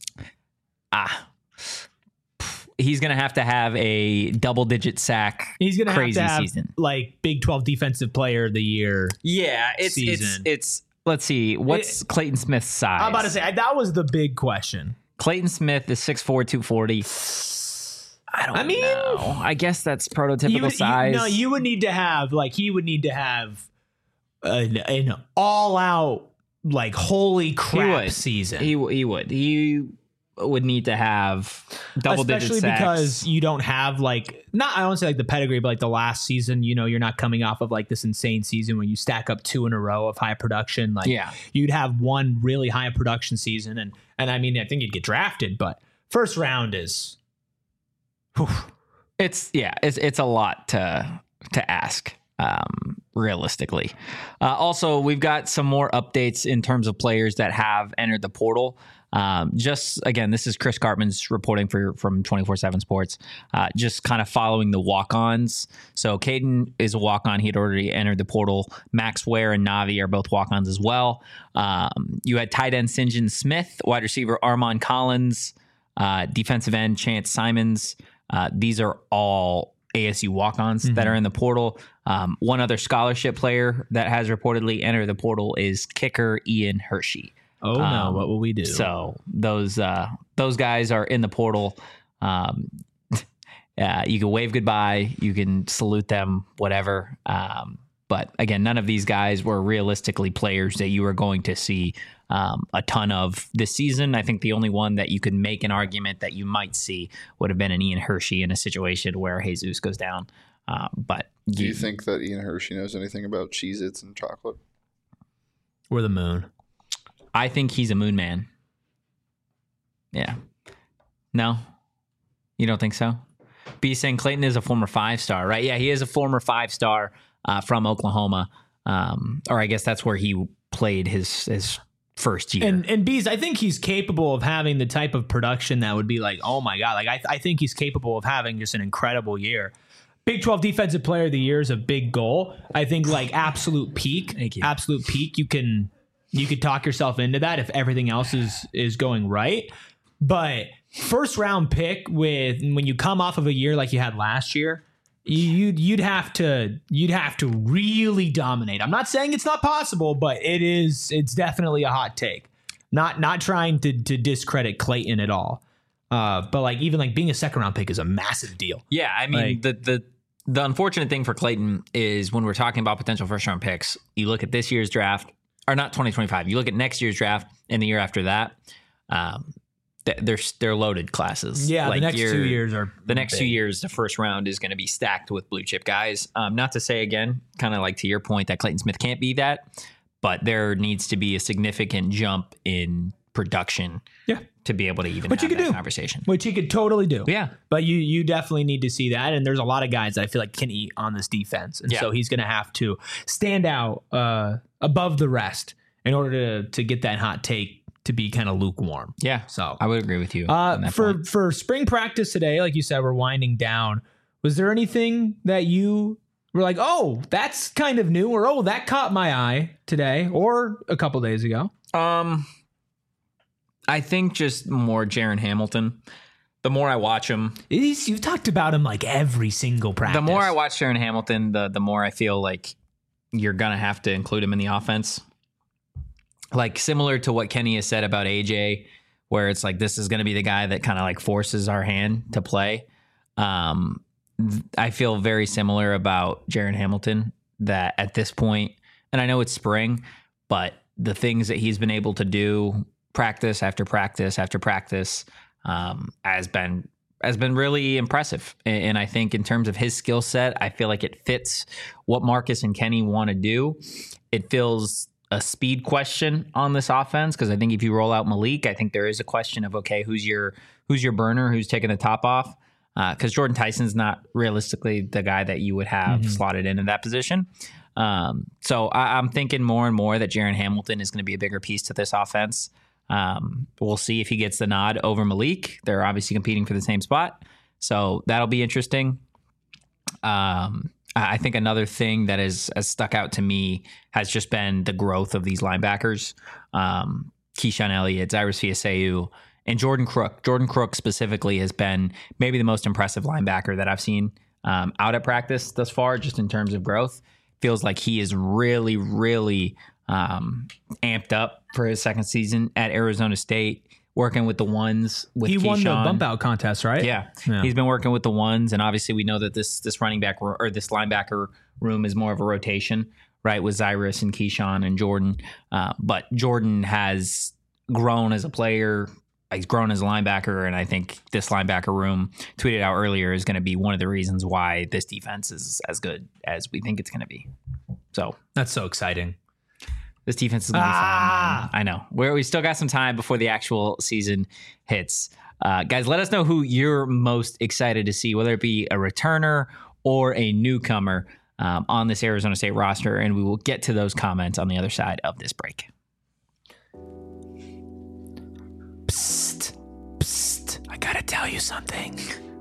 He's going to have a double-digit sack. He's going to crazy have season. Like Big 12 Defensive Player of the Year. Yeah, it's let's see. What's Clayton Smith's size? I'm about to say, that was the big question. Clayton Smith is 6'4", 240. I mean, know. I guess that's prototypical size. You would need to have, like, he would need to have an all-out, like, holy crap season. He would. He would need to have double-digit sacks. Especially because you don't have, like, I don't say, like, the pedigree, but, like, the last season, you're not coming off of, like, this insane season when you stack up 2 in a row of high production. Like, you'd have one really high production season, and I mean, I think you'd get drafted, but first round is... Whew. It's a lot to ask, realistically. Also, we've got some more updates in terms of players that have entered the portal. Just again, this is Chris Cartman's reporting from 24/7 Sports. Just kind of following the walk-ons. So Caden is a walk-on. He had already entered the portal. Max Ware and Navi are both walk-ons as well. You had tight end St. John Smith, wide receiver Armon Collins, defensive end Chance Simons. These are all ASU walk-ons that are in the portal. One other scholarship player that has reportedly entered the portal is kicker Ian Hershey. Oh no! What will we do? So those guys are in the portal. You can wave goodbye. You can salute them. Whatever. But again, none of these guys were realistically players that you were going to see a ton of this season. I think the only one that you could make an argument that you might see would have been an Ian Hershey in a situation where Jesus goes down. But do you think that Ian Hershey knows anything about Cheez-Its and chocolate? Or the moon? I think he's a moon man. Yeah. No? You don't think so? B saying Clayton is a former 5-star, right? Yeah, he is a former 5-star from Oklahoma. Or I guess that's where he played his first year. And Bees, I think he's capable of having the type of production that would be like, oh my God. Like I think he's capable of having just an incredible year. Big 12 Defensive Player of the Year is a big goal. I think like absolute peak. Thank you. Absolute peak. You could talk yourself into that if everything else is going right. But first round pick when you come off of a year like you had last year, you'd have to really dominate. I'm not saying it's not possible, but it's definitely a hot take. Not trying to discredit Clayton at all. But like even like being a second round pick is a massive deal. Yeah, I mean like, the unfortunate thing for Clayton is when we're talking about potential first round picks, you look at this year's draft. Or not 2025. You look at next year's draft and the year after that. They're loaded classes. Yeah, like the next 2 years are the next big. 2 years. The first round is going to be stacked with blue chip guys. Not to say again, kind of like to your point that Clayton Smith can't be that, but there needs to be a significant jump in production. Yeah. To be able to even Which have you could that do. conversation. Which he could totally do. Yeah. But you definitely need to see that. And there's a lot of guys that I feel like can eat on this defense. And so he's going to have to stand out above the rest in order to get that hot take to be kind of lukewarm. Yeah. So I would agree with you. on that point. For spring practice today, like you said, we're winding down. Was there anything that you were like, oh, that's kind of new, or oh, that caught my eye today or a couple days ago? I think just more Jaron Hamilton. the more I watch him, You've talked about him like every single practice. the more I watch Sharon Hamilton, the more I feel like you're going to have to include him in the offense. Like similar to what Kenny has said about AJ, where it's like, this is going to be the guy that kind of like forces our hand to play. I feel very similar about Jaron Hamilton, that at this point, and I know it's spring, but the things that he's been able to do practice after practice after practice has been really impressive. And I think in terms of his skill set, I feel like it fits what Marcus and Kenny want to do. It feels a speed question on this offense, because I think if you roll out Malik, I think there is a question of, okay, who's your burner, who's taking the top off? Because Jordan Tyson's not realistically the guy that you would have slotted in that position. So I'm thinking more and more that Jaron Hamilton is going to be a bigger piece to this offense. We'll see if he gets the nod over Malik. They're obviously competing for the same spot, so that'll be interesting. I think another thing that has stuck out to me has just been the growth of these linebackers. Keyshawn Elliott, Cyrus Fiaseu, and Jordan Crook. Jordan Crook specifically has been maybe the most impressive linebacker that I've seen out at practice thus far, just in terms of growth. Feels like he is really, really amped up for his second season at Arizona State, working with the ones with He Keyshawn. won the bump out contest, right? Yeah. He's been working with the ones, and obviously we know that this running back or this linebacker room is more of a rotation, right, with Cyrus and Keyshawn and Jordan. But Jordan has grown as a player. He's grown as a linebacker, and I think this linebacker room, tweeted out earlier, is going to be one of the reasons why this defense is as good as we think it's going to be. So That's so exciting. this defense is going to be fun. Man. I know. We still got some time before the actual season hits. Guys, let us know who you're most excited to see, whether it be a returner or a newcomer on this Arizona State roster, and we will get to those comments on the other side of this break. Psst. Psst. I gotta tell you something.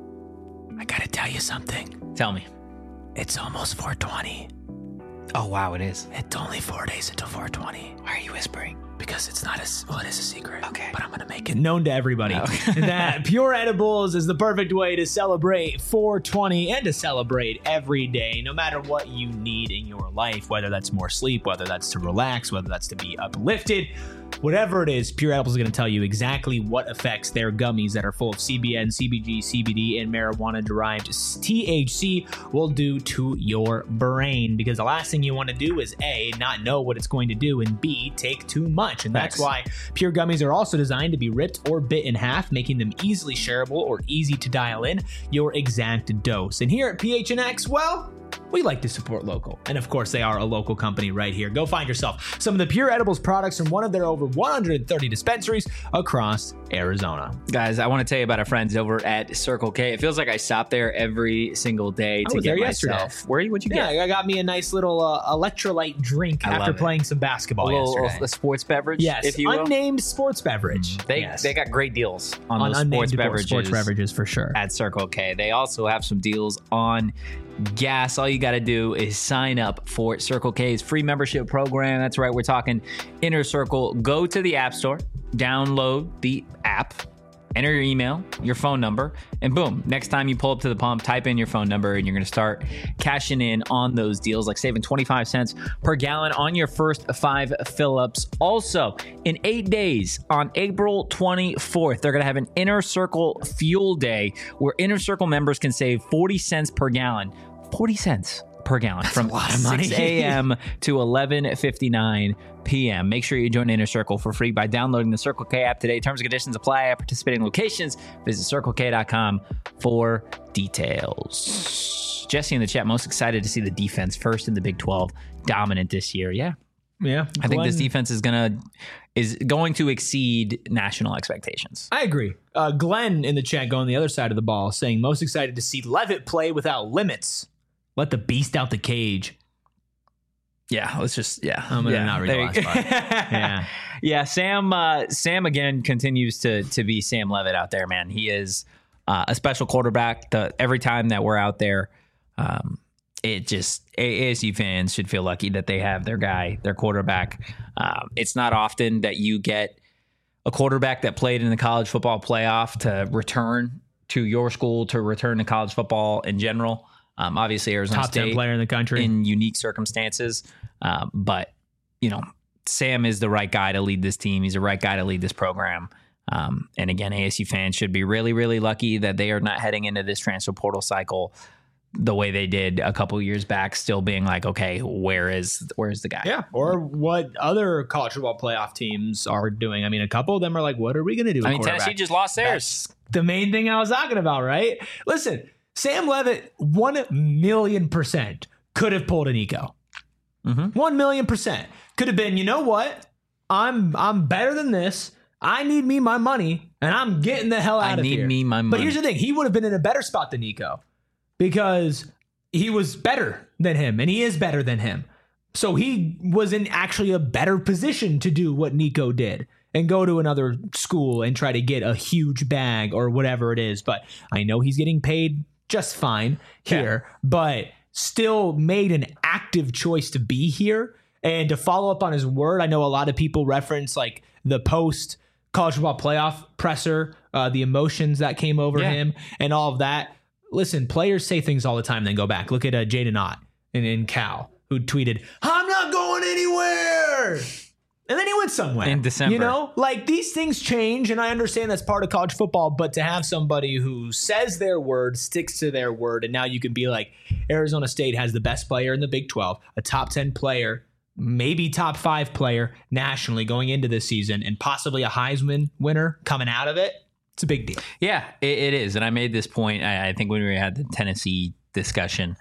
Tell me. It's almost 420. Oh, wow, it is. It's only 4 days until 420. Why are you whispering? Because it's not it is a secret. Okay. But I'm going to make it known to everybody that Pure Edibles is the perfect way to celebrate 420 and to celebrate every day, no matter what you need in your life, whether that's more sleep, whether that's to relax, whether that's to be uplifted. Whatever it is, Pure Edibles is going to tell you exactly what effects their gummies that are full of CBN, CBG, CBD, and marijuana-derived THC will do to your brain. Because the last thing you want to do is A, not know what it's going to do, and B, take too much. And that's why Pure gummies are also designed to be ripped or bit in half, making them easily shareable or easy to dial in your exact dose. And here at PHNX, well, we like to support local. And of course, they are a local company right here. Go find yourself some of the Pure Edibles products from one of their over 130 dispensaries across Arizona. Guys, I want to tell you about our friends over at Circle K. It feels like I stop there every single day to get myself. What'd you get? Yeah, I got me a nice little electrolyte drink after playing some basketball yesterday. A sports beverage, yes, if you will. Unnamed sports beverage. They got great deals on those unnamed sports beverages for sure at Circle K. They also have some deals on gas. All you got to do is sign up for Circle K's free membership program. That's right, we're talking Inner Circle. Go to the App Store, download the app, enter your email, your phone number, and boom, next time you pull up to the pump, type in your phone number, and you're going to start cashing in on those deals, like saving 25 cents per gallon on your first 5 fill-ups. Also, in 8 days, on April 24th, they're going to have an Inner Circle Fuel Day where Inner Circle members can save 40 cents per gallon. 40 cents per gallon. That's from 6 a.m. to 11:59 p.m. Make sure you join Inner Circle for free by downloading the Circle K app today. Terms and conditions apply at participating locations. Visit CircleK.com for details. Jesse in the chat, most excited to see the defense first in the Big 12, dominant this year. Yeah. I think this defense is going to exceed national expectations. I agree. Glenn in the chat going the other side of the ball saying most excited to see Levitt play without limits. Let the beast out the cage. Yeah, let's just I'm gonna not read the last part. Yeah. Sam again continues to be Sam Levitt out there, man. He is a special quarterback. Every time that we're out there, ASU fans should feel lucky that they have their guy, their quarterback. It's not often that you get a quarterback that played in the college football playoff to return to your school to return to college football in general. Obviously, Arizona Top State 10 player in the country in unique circumstances. But, Sam is the right guy to lead this team. He's the right guy to lead this program. And again, ASU fans should be really, really lucky that they are not heading into this transfer portal cycle the way they did a couple years back, still being like, okay, where's the guy? Yeah, or what other college football playoff teams are doing. I mean, a couple of them are like, what are we going to do? Tennessee just lost theirs. That's the main thing I was talking about, right? Listen, Sam Leavitt, 1,000,000% could have pulled a Nico. 1,000,000% could have been. You know what? I'm better than this. I need me my money, and I'm getting the hell out of here. I need me my money. But here's the thing: he would have been in a better spot than Nico because he was better than him, and he is better than him. So he was in actually a better position to do what Nico did and go to another school and try to get a huge bag or whatever it is. But I know he's getting paid just fine here, but still made an active choice to be here and to follow up on his word. I know a lot of people reference like the post college football playoff presser, the emotions that came over him and all of that. Listen, players say things all the time, then go back. Look at Jaden Ott in Cal, who tweeted, "I'm not going anywhere." And then he went somewhere. In December. Like these things change, and I understand that's part of college football, but to have somebody who says their word, sticks to their word, and now you can be like, Arizona State has the best player in the Big 12, a top 10 player, maybe top 5 player nationally going into this season, and possibly a Heisman winner coming out of it. It's a big deal. Yeah, it is. And I made this point, I think, when we had the Tennessee discussion.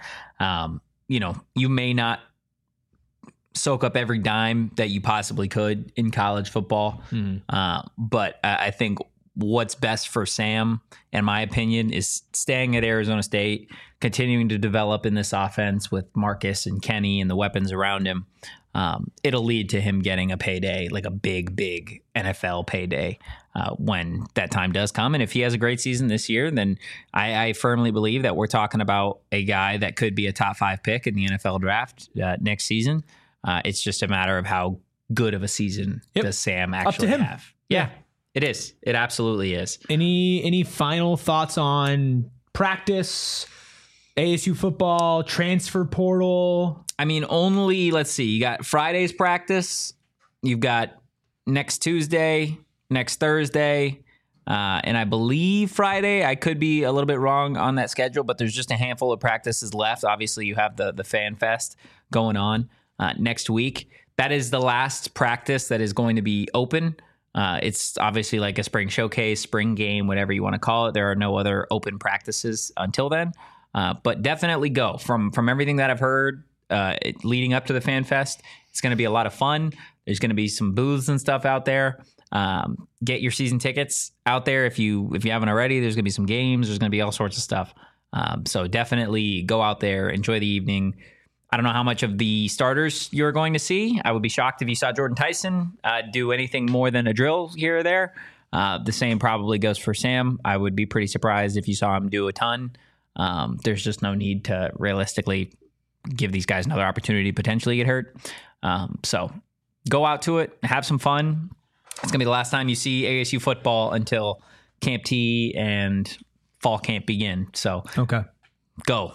You may not soak up every dime that you possibly could in college football. But I think what's best for Sam, in my opinion, is staying at Arizona State, continuing to develop in this offense with Marcus and Kenny and the weapons around him. It'll lead to him getting a payday, like a big NFL payday when that time does come. And if he has a great season this year, then I firmly believe that we're talking about a guy that could be a top 5 pick in the NFL draft next season. It's just a matter of how good of a season does Sam actually have. Yeah, it is. It absolutely is. Any final thoughts on practice, ASU football, transfer portal? I mean, let's see. You got Friday's practice. You've got next Tuesday, next Thursday, and I believe Friday. I could be a little bit wrong on that schedule, but there's just a handful of practices left. Obviously, you have the Fan Fest going on next week. That is the last practice that is going to be open. It's obviously like a spring showcase, spring game, whatever you want to call it. There are no other open practices until then, but definitely go. From everything that I've heard leading up to the Fan Fest, it's going to be a lot of fun. There's going to be some booths and stuff out there. Get your season tickets out there if you haven't already. There's going to be some games. There's going to be all sorts of stuff. So definitely go out there, enjoy the evening. I don't know how much of the starters you're going to see. I would be shocked if you saw Jordan Tyson do anything more than a drill here or there. The same probably goes for Sam. I would be pretty surprised if you saw him do a ton. There's just no need to realistically give these guys another opportunity to potentially get hurt. So go out to it, have some fun. It's going to be the last time you see ASU football until Camp T and fall camp begin. So okay, go.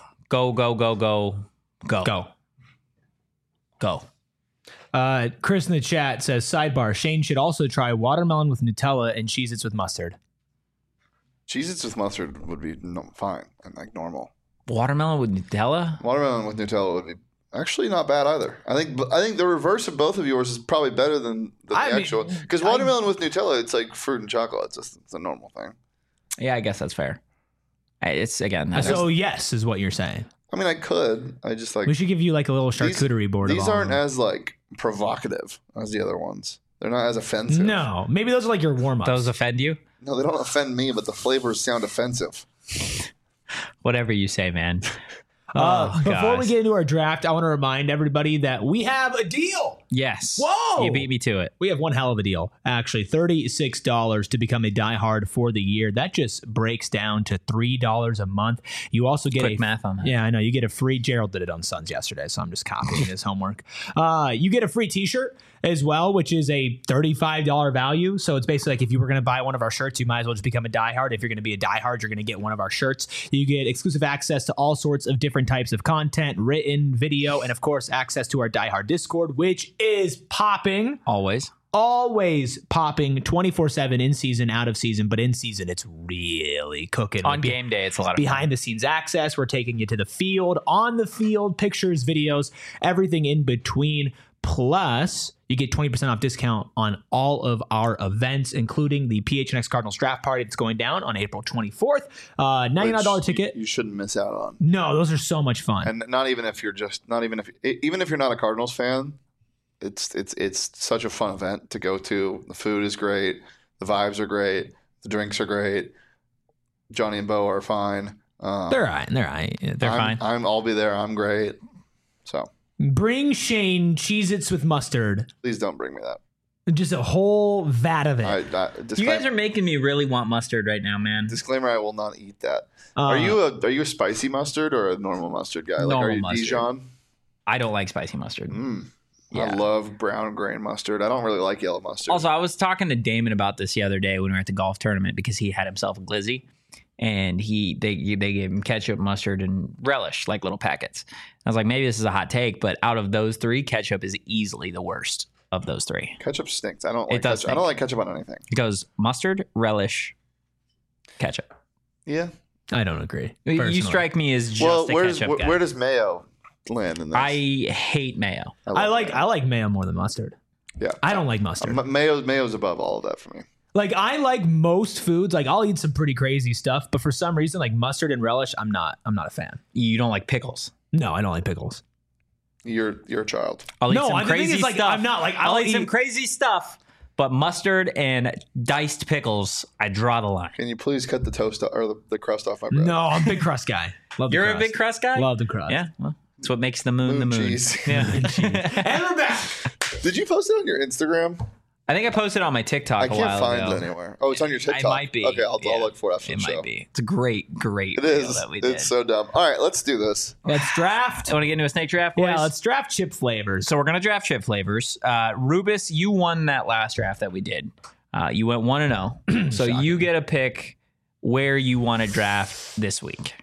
Chris in the chat says, sidebar, Shane should also try watermelon with Nutella and Cheez-Its with mustard. Cheez-Its with mustard would be fine and like normal. Watermelon with Nutella? Watermelon with Nutella would be actually not bad either. I think the reverse of both of yours is probably better than the actual. Because watermelon with Nutella, it's like fruit and chocolate. It's a normal thing. Yeah, I guess that's fair. It's again. So yes, is what you're saying. I mean, I could. I just like. We should give you like a little charcuterie board. These aren't as like provocative as the other ones. They're not as offensive. No, maybe those are like your warm-ups. Those offend you? No, they don't offend me, but the flavors sound offensive. Whatever you say, man. Before we get into our draft, I want to remind everybody that we have a deal Yes. Whoa! You beat me to it. We have one hell of a deal. Actually, $36 to become a diehard for the year. That just breaks down to $3 a month. You also get Quick math on that. Yeah, I know. You get a free. Gerald did it on Suns yesterday, so I'm just copying his homework. You get a free T-shirt as well, which is a $35 value. So it's basically like if you were going to buy one of our shirts, you might as well just become a diehard. If you're going to be a diehard, you're going to get one of our shirts. You get exclusive access to all sorts of different types of content, written, video, and of course, access to our diehard Discord, which is popping. Always Popping 24/7 in season, out of season, but in season it's really cooking. On game day, it's a lot of behind the scenes access. We're taking you to the field, on the field, pictures, videos, everything in between. Plus, you get 20% off discount on all of our events, including the PHNX Cardinals draft party that's going down on April 24th. $99 ticket. You shouldn't miss out on. No, those are so much fun. And even if you're not a Cardinals fan, it's such a fun event to go to. The food is great. The vibes are great. The drinks are great. Johnny and Bo are fine. They're all right. They're fine. I'll be there. I'm great. So bring Shane Cheez-Its with mustard. please don't bring me that. Just a whole vat of it. You guys are making me really want mustard right now, man. Disclaimer: I will not eat that. Are you a spicy mustard or a normal mustard guy? Normal are you mustard. Dijon? I don't like spicy mustard. Yeah. I love brown grain mustard. I don't really like yellow mustard. Also, I was talking to Damon about this the other day when we were at the golf tournament because he had himself a glizzy, and they gave him ketchup, mustard, and relish, like little packets. I was like, maybe this is a hot take, but out of those three, ketchup is easily the worst of those three. Ketchup stinks. I don't like It does ketchup. I don't like ketchup on anything. It goes mustard, relish, ketchup. Yeah. I don't agree. You personally. strike me as just Well, a ketchup guy. where does mayo land in this? I hate mayo. I like mayo more than mustard. Yeah. I don't like mustard. Mayo's above all of that for me. Like I like most foods. Like I'll eat some pretty crazy stuff, but for some reason, like mustard and relish, I'm not a fan. You don't like pickles. No, I don't like pickles. You're a child. I'll eat No, some I think crazy it's like stuff. I'm not like I'll eat some crazy stuff, but mustard and diced pickles, I draw the line. Can you please cut the toast or the crust off my bread? No, I'm a big crust guy. Love the You're crust. a big crust guy? Love the crust. Yeah, well, that's what makes the moon the moon. cheese. Yeah. And we're back. Did you post it on your Instagram? I think I posted on my TikTok I a can't while find ago. it anywhere. Oh, it's on your TikTok. It might be. Okay, I'll Yeah. look for it after It the show. might be. It's a great It reel is. that we did. It's so dumb. All right, let's do this. Let's draft. Want to get into a snake draft, boys? Yeah, let's draft chip flavors. So we're gonna draft chip flavors. Rubus, you won that last draft that we did. You went 1-0, so you get a pick where you want to draft this week.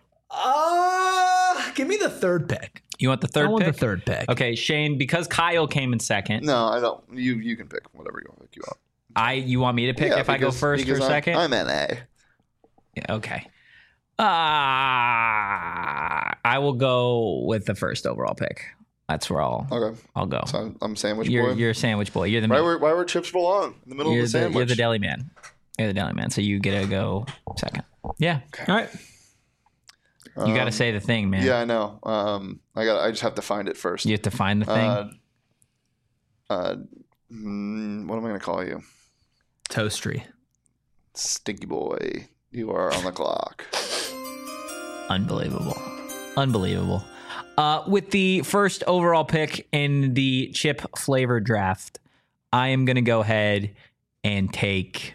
Give me the third pick. You want the third I want pick? the third pick. Okay, Shane, because Kyle came in second. No, I don't. You can pick whatever you want. You want me to pick Yeah, if I go first or because second? I'm NA. Yeah, okay. I will go with the first overall pick. That's where I'll Okay. go. So I'm sandwich boy. You're a sandwich boy. You're the Why meat. where chips belong in the middle You're of the sandwich. You're the deli man. You're the deli man. So you get to go second. Yeah. All right. You got to say the thing, man. Yeah, I know. I just have to find it first. You have to find the thing. What am I going to call you? Toastery. Stinky boy. You are on the clock. Unbelievable. With the first overall pick in the chip flavor draft, I am going to go ahead and take.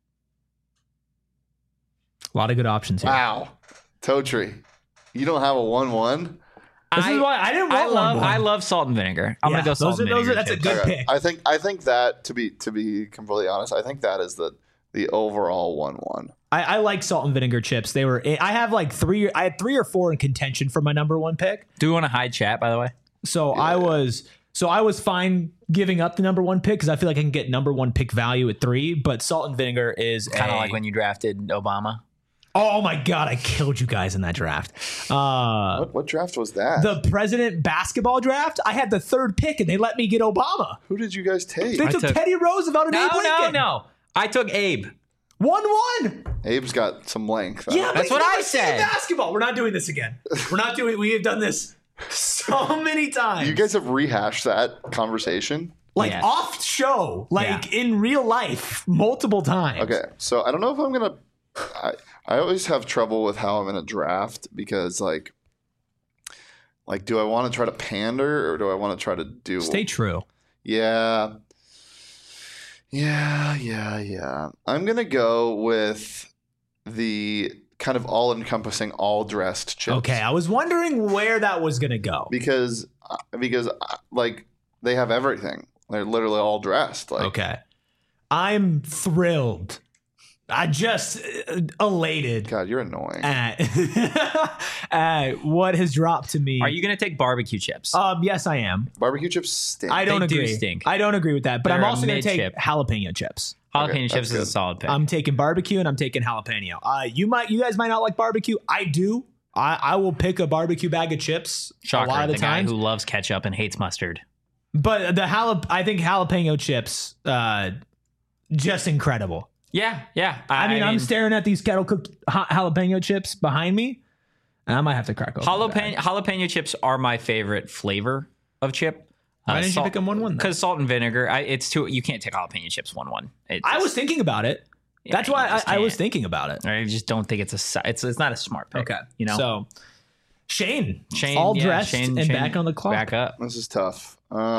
A lot of good options here. Wow. Totri. You don't have a 1-1? This is why I didn't want I love salt and vinegar. I'm gonna go salt and vinegar. That's a chips. good pick. I think that to be completely honest, I think that is the overall 1-1. I like salt and vinegar chips. They were. I have like three. I had 3 or 4 in contention for my number 1 pick. Do we want to hide chat, by the way? So I was fine giving up the number 1 pick because I feel like I can get number 1 pick value at 3. But salt and vinegar is Kind of like when you drafted Obama. Oh my God, I killed you guys in that draft. What draft was that? The president basketball draft. I had the 3rd pick and they let me get Obama. Who did you guys take? They took Teddy Roosevelt and Abe Lincoln. No. I took Abe. 1-1. Abe's got some length. Yeah, That's but what he's I never seen said. Basketball. We're not doing this again. We have done this so many times. You guys have rehashed that conversation. like Yes. off show, like in real life, multiple times. Okay, so I don't know if I'm gonna. I always have trouble with how I'm gonna draft because like do I want to try to pander or do I want to try to do? Stay true. Yeah. I'm gonna go with the kind of all-encompassing, all-dressed chips. Okay, I was wondering where that was gonna go. Because like they have everything. They're literally all dressed. Like, Okay, I'm thrilled. I just elated God, you're annoying. at what has dropped to me. Are you gonna take barbecue chips? Yes, I am. Barbecue chips stink. I don't They do agree. stink. I don't agree with that. But They're I'm a also going to take mid-chip. jalapeno chips. Jalapeno Okay, chips that's is a good. solid pick. I'm taking barbecue and I'm taking jalapeno. You guys might not like barbecue. I do. I will pick a barbecue bag of chips Shocker, a lot of the the guy time. who loves ketchup and hates mustard. But I think jalapeno chips, just incredible. Yeah. I mean, I'm staring at these kettle cooked jalapeno chips behind me, and I might have to crack open. the bag. jalapeno chips are my favorite flavor of chip. Why didn't you pick them 1-1? Because salt and vinegar. It's too. You can't take jalapeno chips 1-1. I was thinking about it. That's you why just I was can't. thinking about it. I just don't think it's not a smart pick. Okay, you know. So Shane, Shane, all yeah, dressed Shane- and Shane, back on the clock. Back up. This is tough.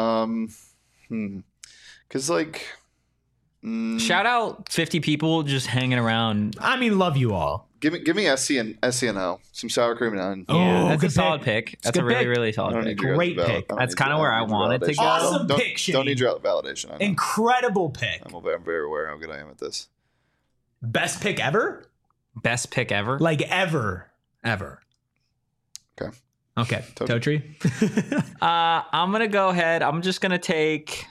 Because like, Shout out 50 people just hanging around. I mean, love you all. give me SC and O, some sour cream and onion. Oh, Yeah, that's good a solid pick. pick. It's That's a a good really, pick. really I solid don't pick. need your Great guys' pick. I don't That's need kinda your- where I I don't need your wanted to validation. go. Awesome Don't- pick, Shane. Don't need your validation. I know. Incredible pick. I'm very aware how good I am at this. Best pick ever? Best pick ever. Like ever. Okay. Okay. Totri. Totri. I'm gonna go ahead. I'm just gonna take.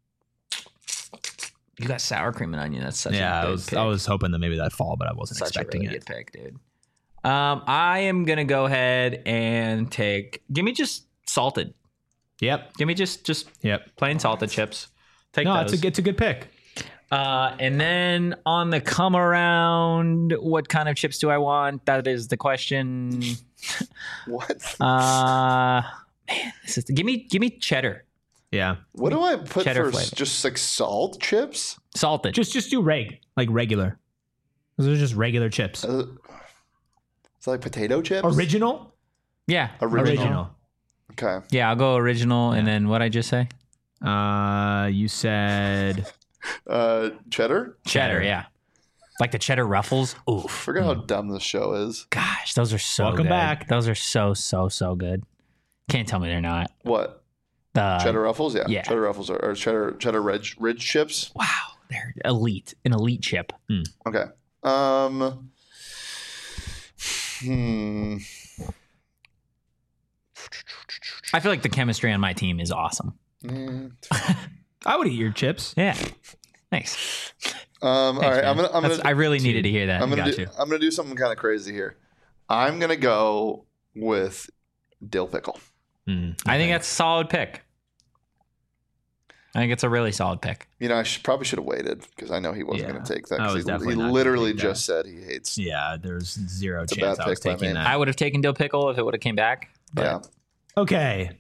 You got sour cream and onion. That's such Yeah, a I good was pick. I was hoping that maybe that'd fall, but I wasn't Such expecting a really it. good pick, dude. I am gonna go ahead and take. Give me just salted. Yep. Give me just Yep. plain salted chips. Take No, those. it's a good pick. And then on the come around, what kind of chips do I want? That is the question. What? Man, give me cheddar, Yeah. What do I put Cheddar for flavor. just like salt chips? salted. Just do regular. Those are just regular chips. It's like potato chips. Original? yeah, Original. Okay. Yeah, I'll go original. And then what I just say? You said Cheddar. Cheddar. Yeah, like the cheddar ruffles. Oof. Forget how dumb this show is. Gosh, those are so Welcome good. back. Those are so good. Can't tell me they're not. What? The Cheddar Ruffles? Yeah. yeah. Cheddar Ruffles or cheddar ridge chips. Wow, they're elite. An elite chip. Okay. I feel like the chemistry on my team is awesome. I would eat your chips. Yeah. Thanks. All right. man. I'm gonna I really needed to hear that. I'm got you. gonna do something kind of crazy here. I'm gonna go with dill pickle. I think that's a solid pick. I think it's a really solid pick. You know, probably should have waited because I know he wasn't Yeah. going to take that. I 'cause was he definitely not gonna literally take that. just said he hates. Yeah, there's zero a chance bad I was pick by taking me. that. I would have taken dill pickle if it would have came back. Yeah, Okay.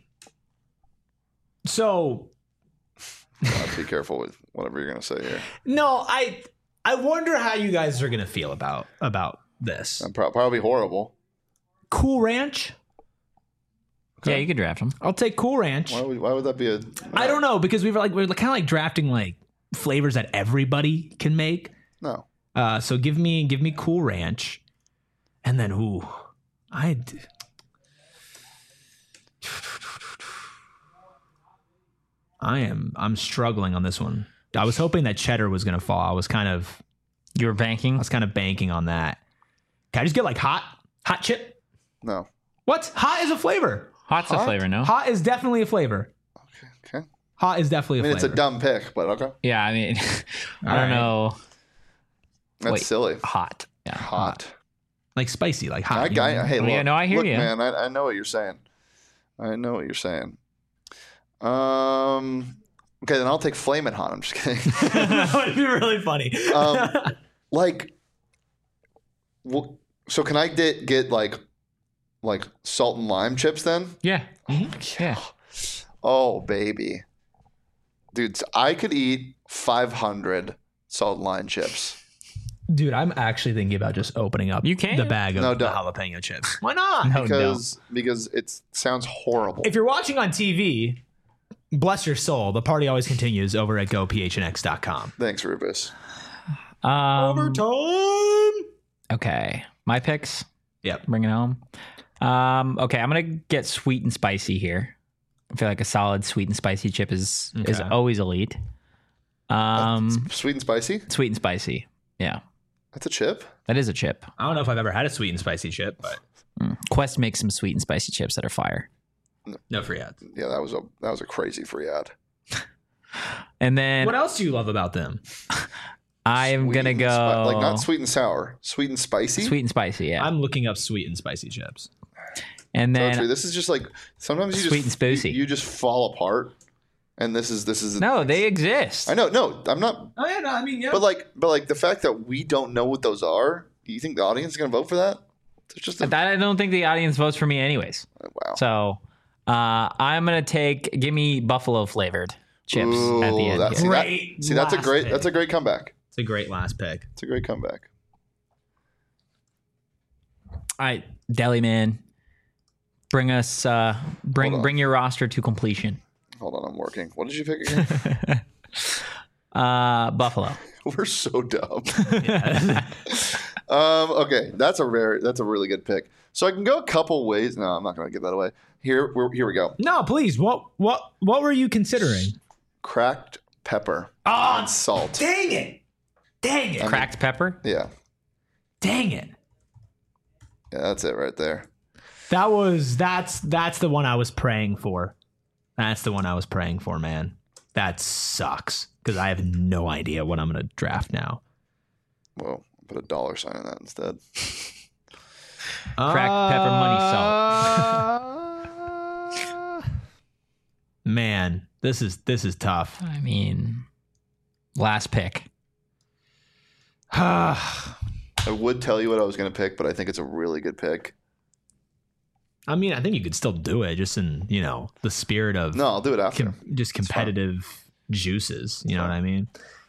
So be careful with whatever you're going to say here. no, I wonder how you guys are gonna feel about this. Probably horrible. Cool Ranch. Yeah, you could draft them. I'll take Cool Ranch. Why would that be a? I don't know because we're kind of like drafting like flavors that everybody can make. No. So give me Cool Ranch, and then I'm struggling on this one. I was hoping that cheddar was gonna fall. I was kind of banking. banking on that. Can I just get like hot chip? No. What? Hot is a flavor. Hot's a Hot? flavor, no? Hot is definitely a flavor. Okay. Hot is definitely I a mean, flavor. it's a dumb pick, but okay. Yeah, I mean, I All don't right. know. That's Wait. silly. Hot. Yeah. Hot. like spicy, like hot. Hey, Oh, look, yeah, no, I hear look, you. man. I know what you're saying. Okay, then I'll take Flamin' Hot. I'm just kidding. That would be really funny. So can I get like salt and lime chips then? Yeah. Yeah. Oh baby, dude, so I could eat 500 salt and lime chips. Dude, I'm actually thinking about just opening up You can. the bag of No, the don't. jalapeno chips. Why not? No, no. Because it sounds horrible. If you're watching on TV, bless your soul. The party always continues over at gophnx.com. Thanks, Rufus. Overtime. Okay, my picks. Yep. Bring it home. Okay, I'm gonna get sweet and spicy here. I feel like a solid sweet and spicy chip is always elite. Sweet and spicy? Sweet and spicy. Yeah. That's a chip? That is a chip. I don't know if I've ever had a sweet and spicy chip, but Quest makes some sweet and spicy chips that are fire. no free ads. Yeah, that was a crazy free ad. And then What else do you love about them? I'm Sweet gonna and go like not sweet and sour, sweet and spicy. sweet and spicy. Yeah. I'm looking up sweet and spicy chips. And So then true. This is just like sometimes you Sweet just and spoosy. you just fall apart, and this is no, they exist. I know. No, I'm not. Oh yeah, no, I mean yeah. But like the fact that we don't know what those are. You think the audience is gonna vote for that? It's just I don't think the audience votes for me anyways. wow. So I'm gonna give me buffalo flavored chips at the end. That's, here. that's a last great pick. that's a great comeback. It's a great last pick. It's a great comeback. All right, Deli Man, bring us bring your roster to completion. Hold on, I'm working. What did you pick again? Buffalo. We're so dumb. Okay, that's a really good pick. So I can go a couple ways. No, I'm not going to give that away. Here we go. No, please. What were you considering? Cracked pepper Oh, and salt. dang it! Dang it! Cracked pepper. Yeah, Dang it! that's it right there. That's the one I was praying for. That's the one I was praying for, man. That sucks because I have no idea what I'm gonna draft now. Well, I'll put a $ sign on that instead. Cracked pepper, money, salt. Man, this is tough. I mean, last pick. I would tell you what I was going to pick, but I think it's a really good pick. I mean, I think you could still do it, just in the spirit of No, I'll do it after. just competitive juices. You know what I mean?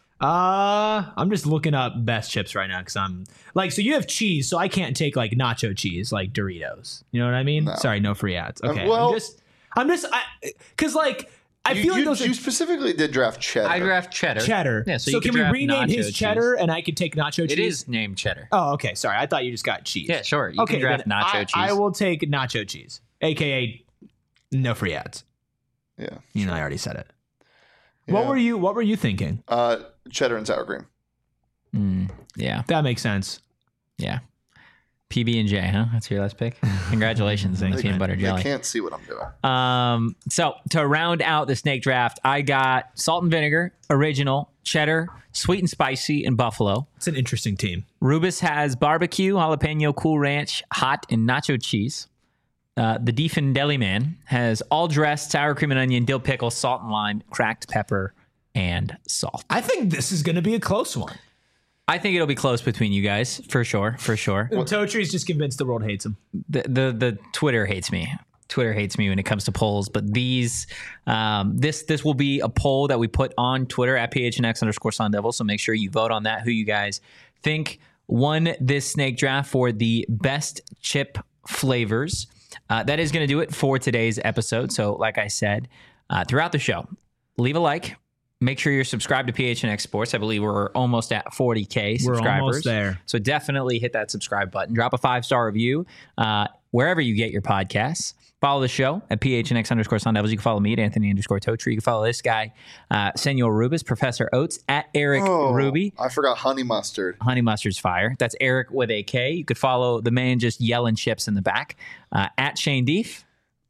I'm just looking up best chips right now because I'm like, so you have cheese, so I can't take like nacho cheese, like Doritos. You know what I mean? No. Sorry, no free ads. Okay, well- because like I feel like those you are specifically did draft cheddar. I draft cheddar. cheddar. Yeah, so you can could we draft rename nacho his cheese. cheddar and I could take nacho cheese? It is named cheddar. Oh, okay. Sorry, I thought you just got cheese. Yeah, sure. You okay, can draft then nacho cheese. I will take nacho cheese, aka no free ads. Yeah. I already said it. Yeah. What were you thinking? Cheddar and sour cream. Yeah, That makes sense. yeah. PB&J, huh? That's your last pick. Congratulations on the peanut butter They jelly. can't see what I'm doing. So to round out the snake draft, I got salt and vinegar, original, cheddar, sweet and spicy, and buffalo. It's an interesting team. Rubus has barbecue, jalapeno, Cool Ranch, hot, and nacho cheese. The Deefin Deli Man has all dressed, sour cream and onion, dill pickle, salt and lime, cracked pepper, and salt. I think this is going to be a close one. I think it'll be close between you guys, for sure. Totree's just convinced the world hates him. The Twitter hates me. Twitter hates me when it comes to polls, but these this will be a poll that we put on Twitter at PHNX_Sun Devil. So make sure you vote on that. Who you guys think won this snake draft for the best chip flavors? That is going to do it for today's episode. So, like I said, throughout the show, leave a like. Make sure you're subscribed to PHNX Sports. I believe we're almost at 40K subscribers. We're almost there. So definitely hit that subscribe button. Drop a 5-star review wherever you get your podcasts. Follow the show at PHNX_Sun Devils. You can follow me at Anthony_Totri. You can follow this guy, Senor Rubus, Professor Oates, at Eric Ruby. I forgot honey mustard. Honey Mustard's fire. That's Eric with a K. You could follow the man just yelling chips in the back, at Shane Deef.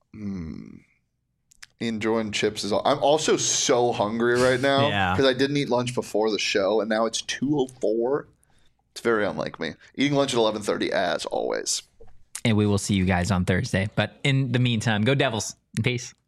Enjoying chips is all. I'm also so hungry right now Yeah. because I didn't eat lunch before the show, and now it's 2:04. It's very unlike me. Eating lunch at 11:30 as always. And we will see you guys on Thursday. But in the meantime, go Devils. Peace.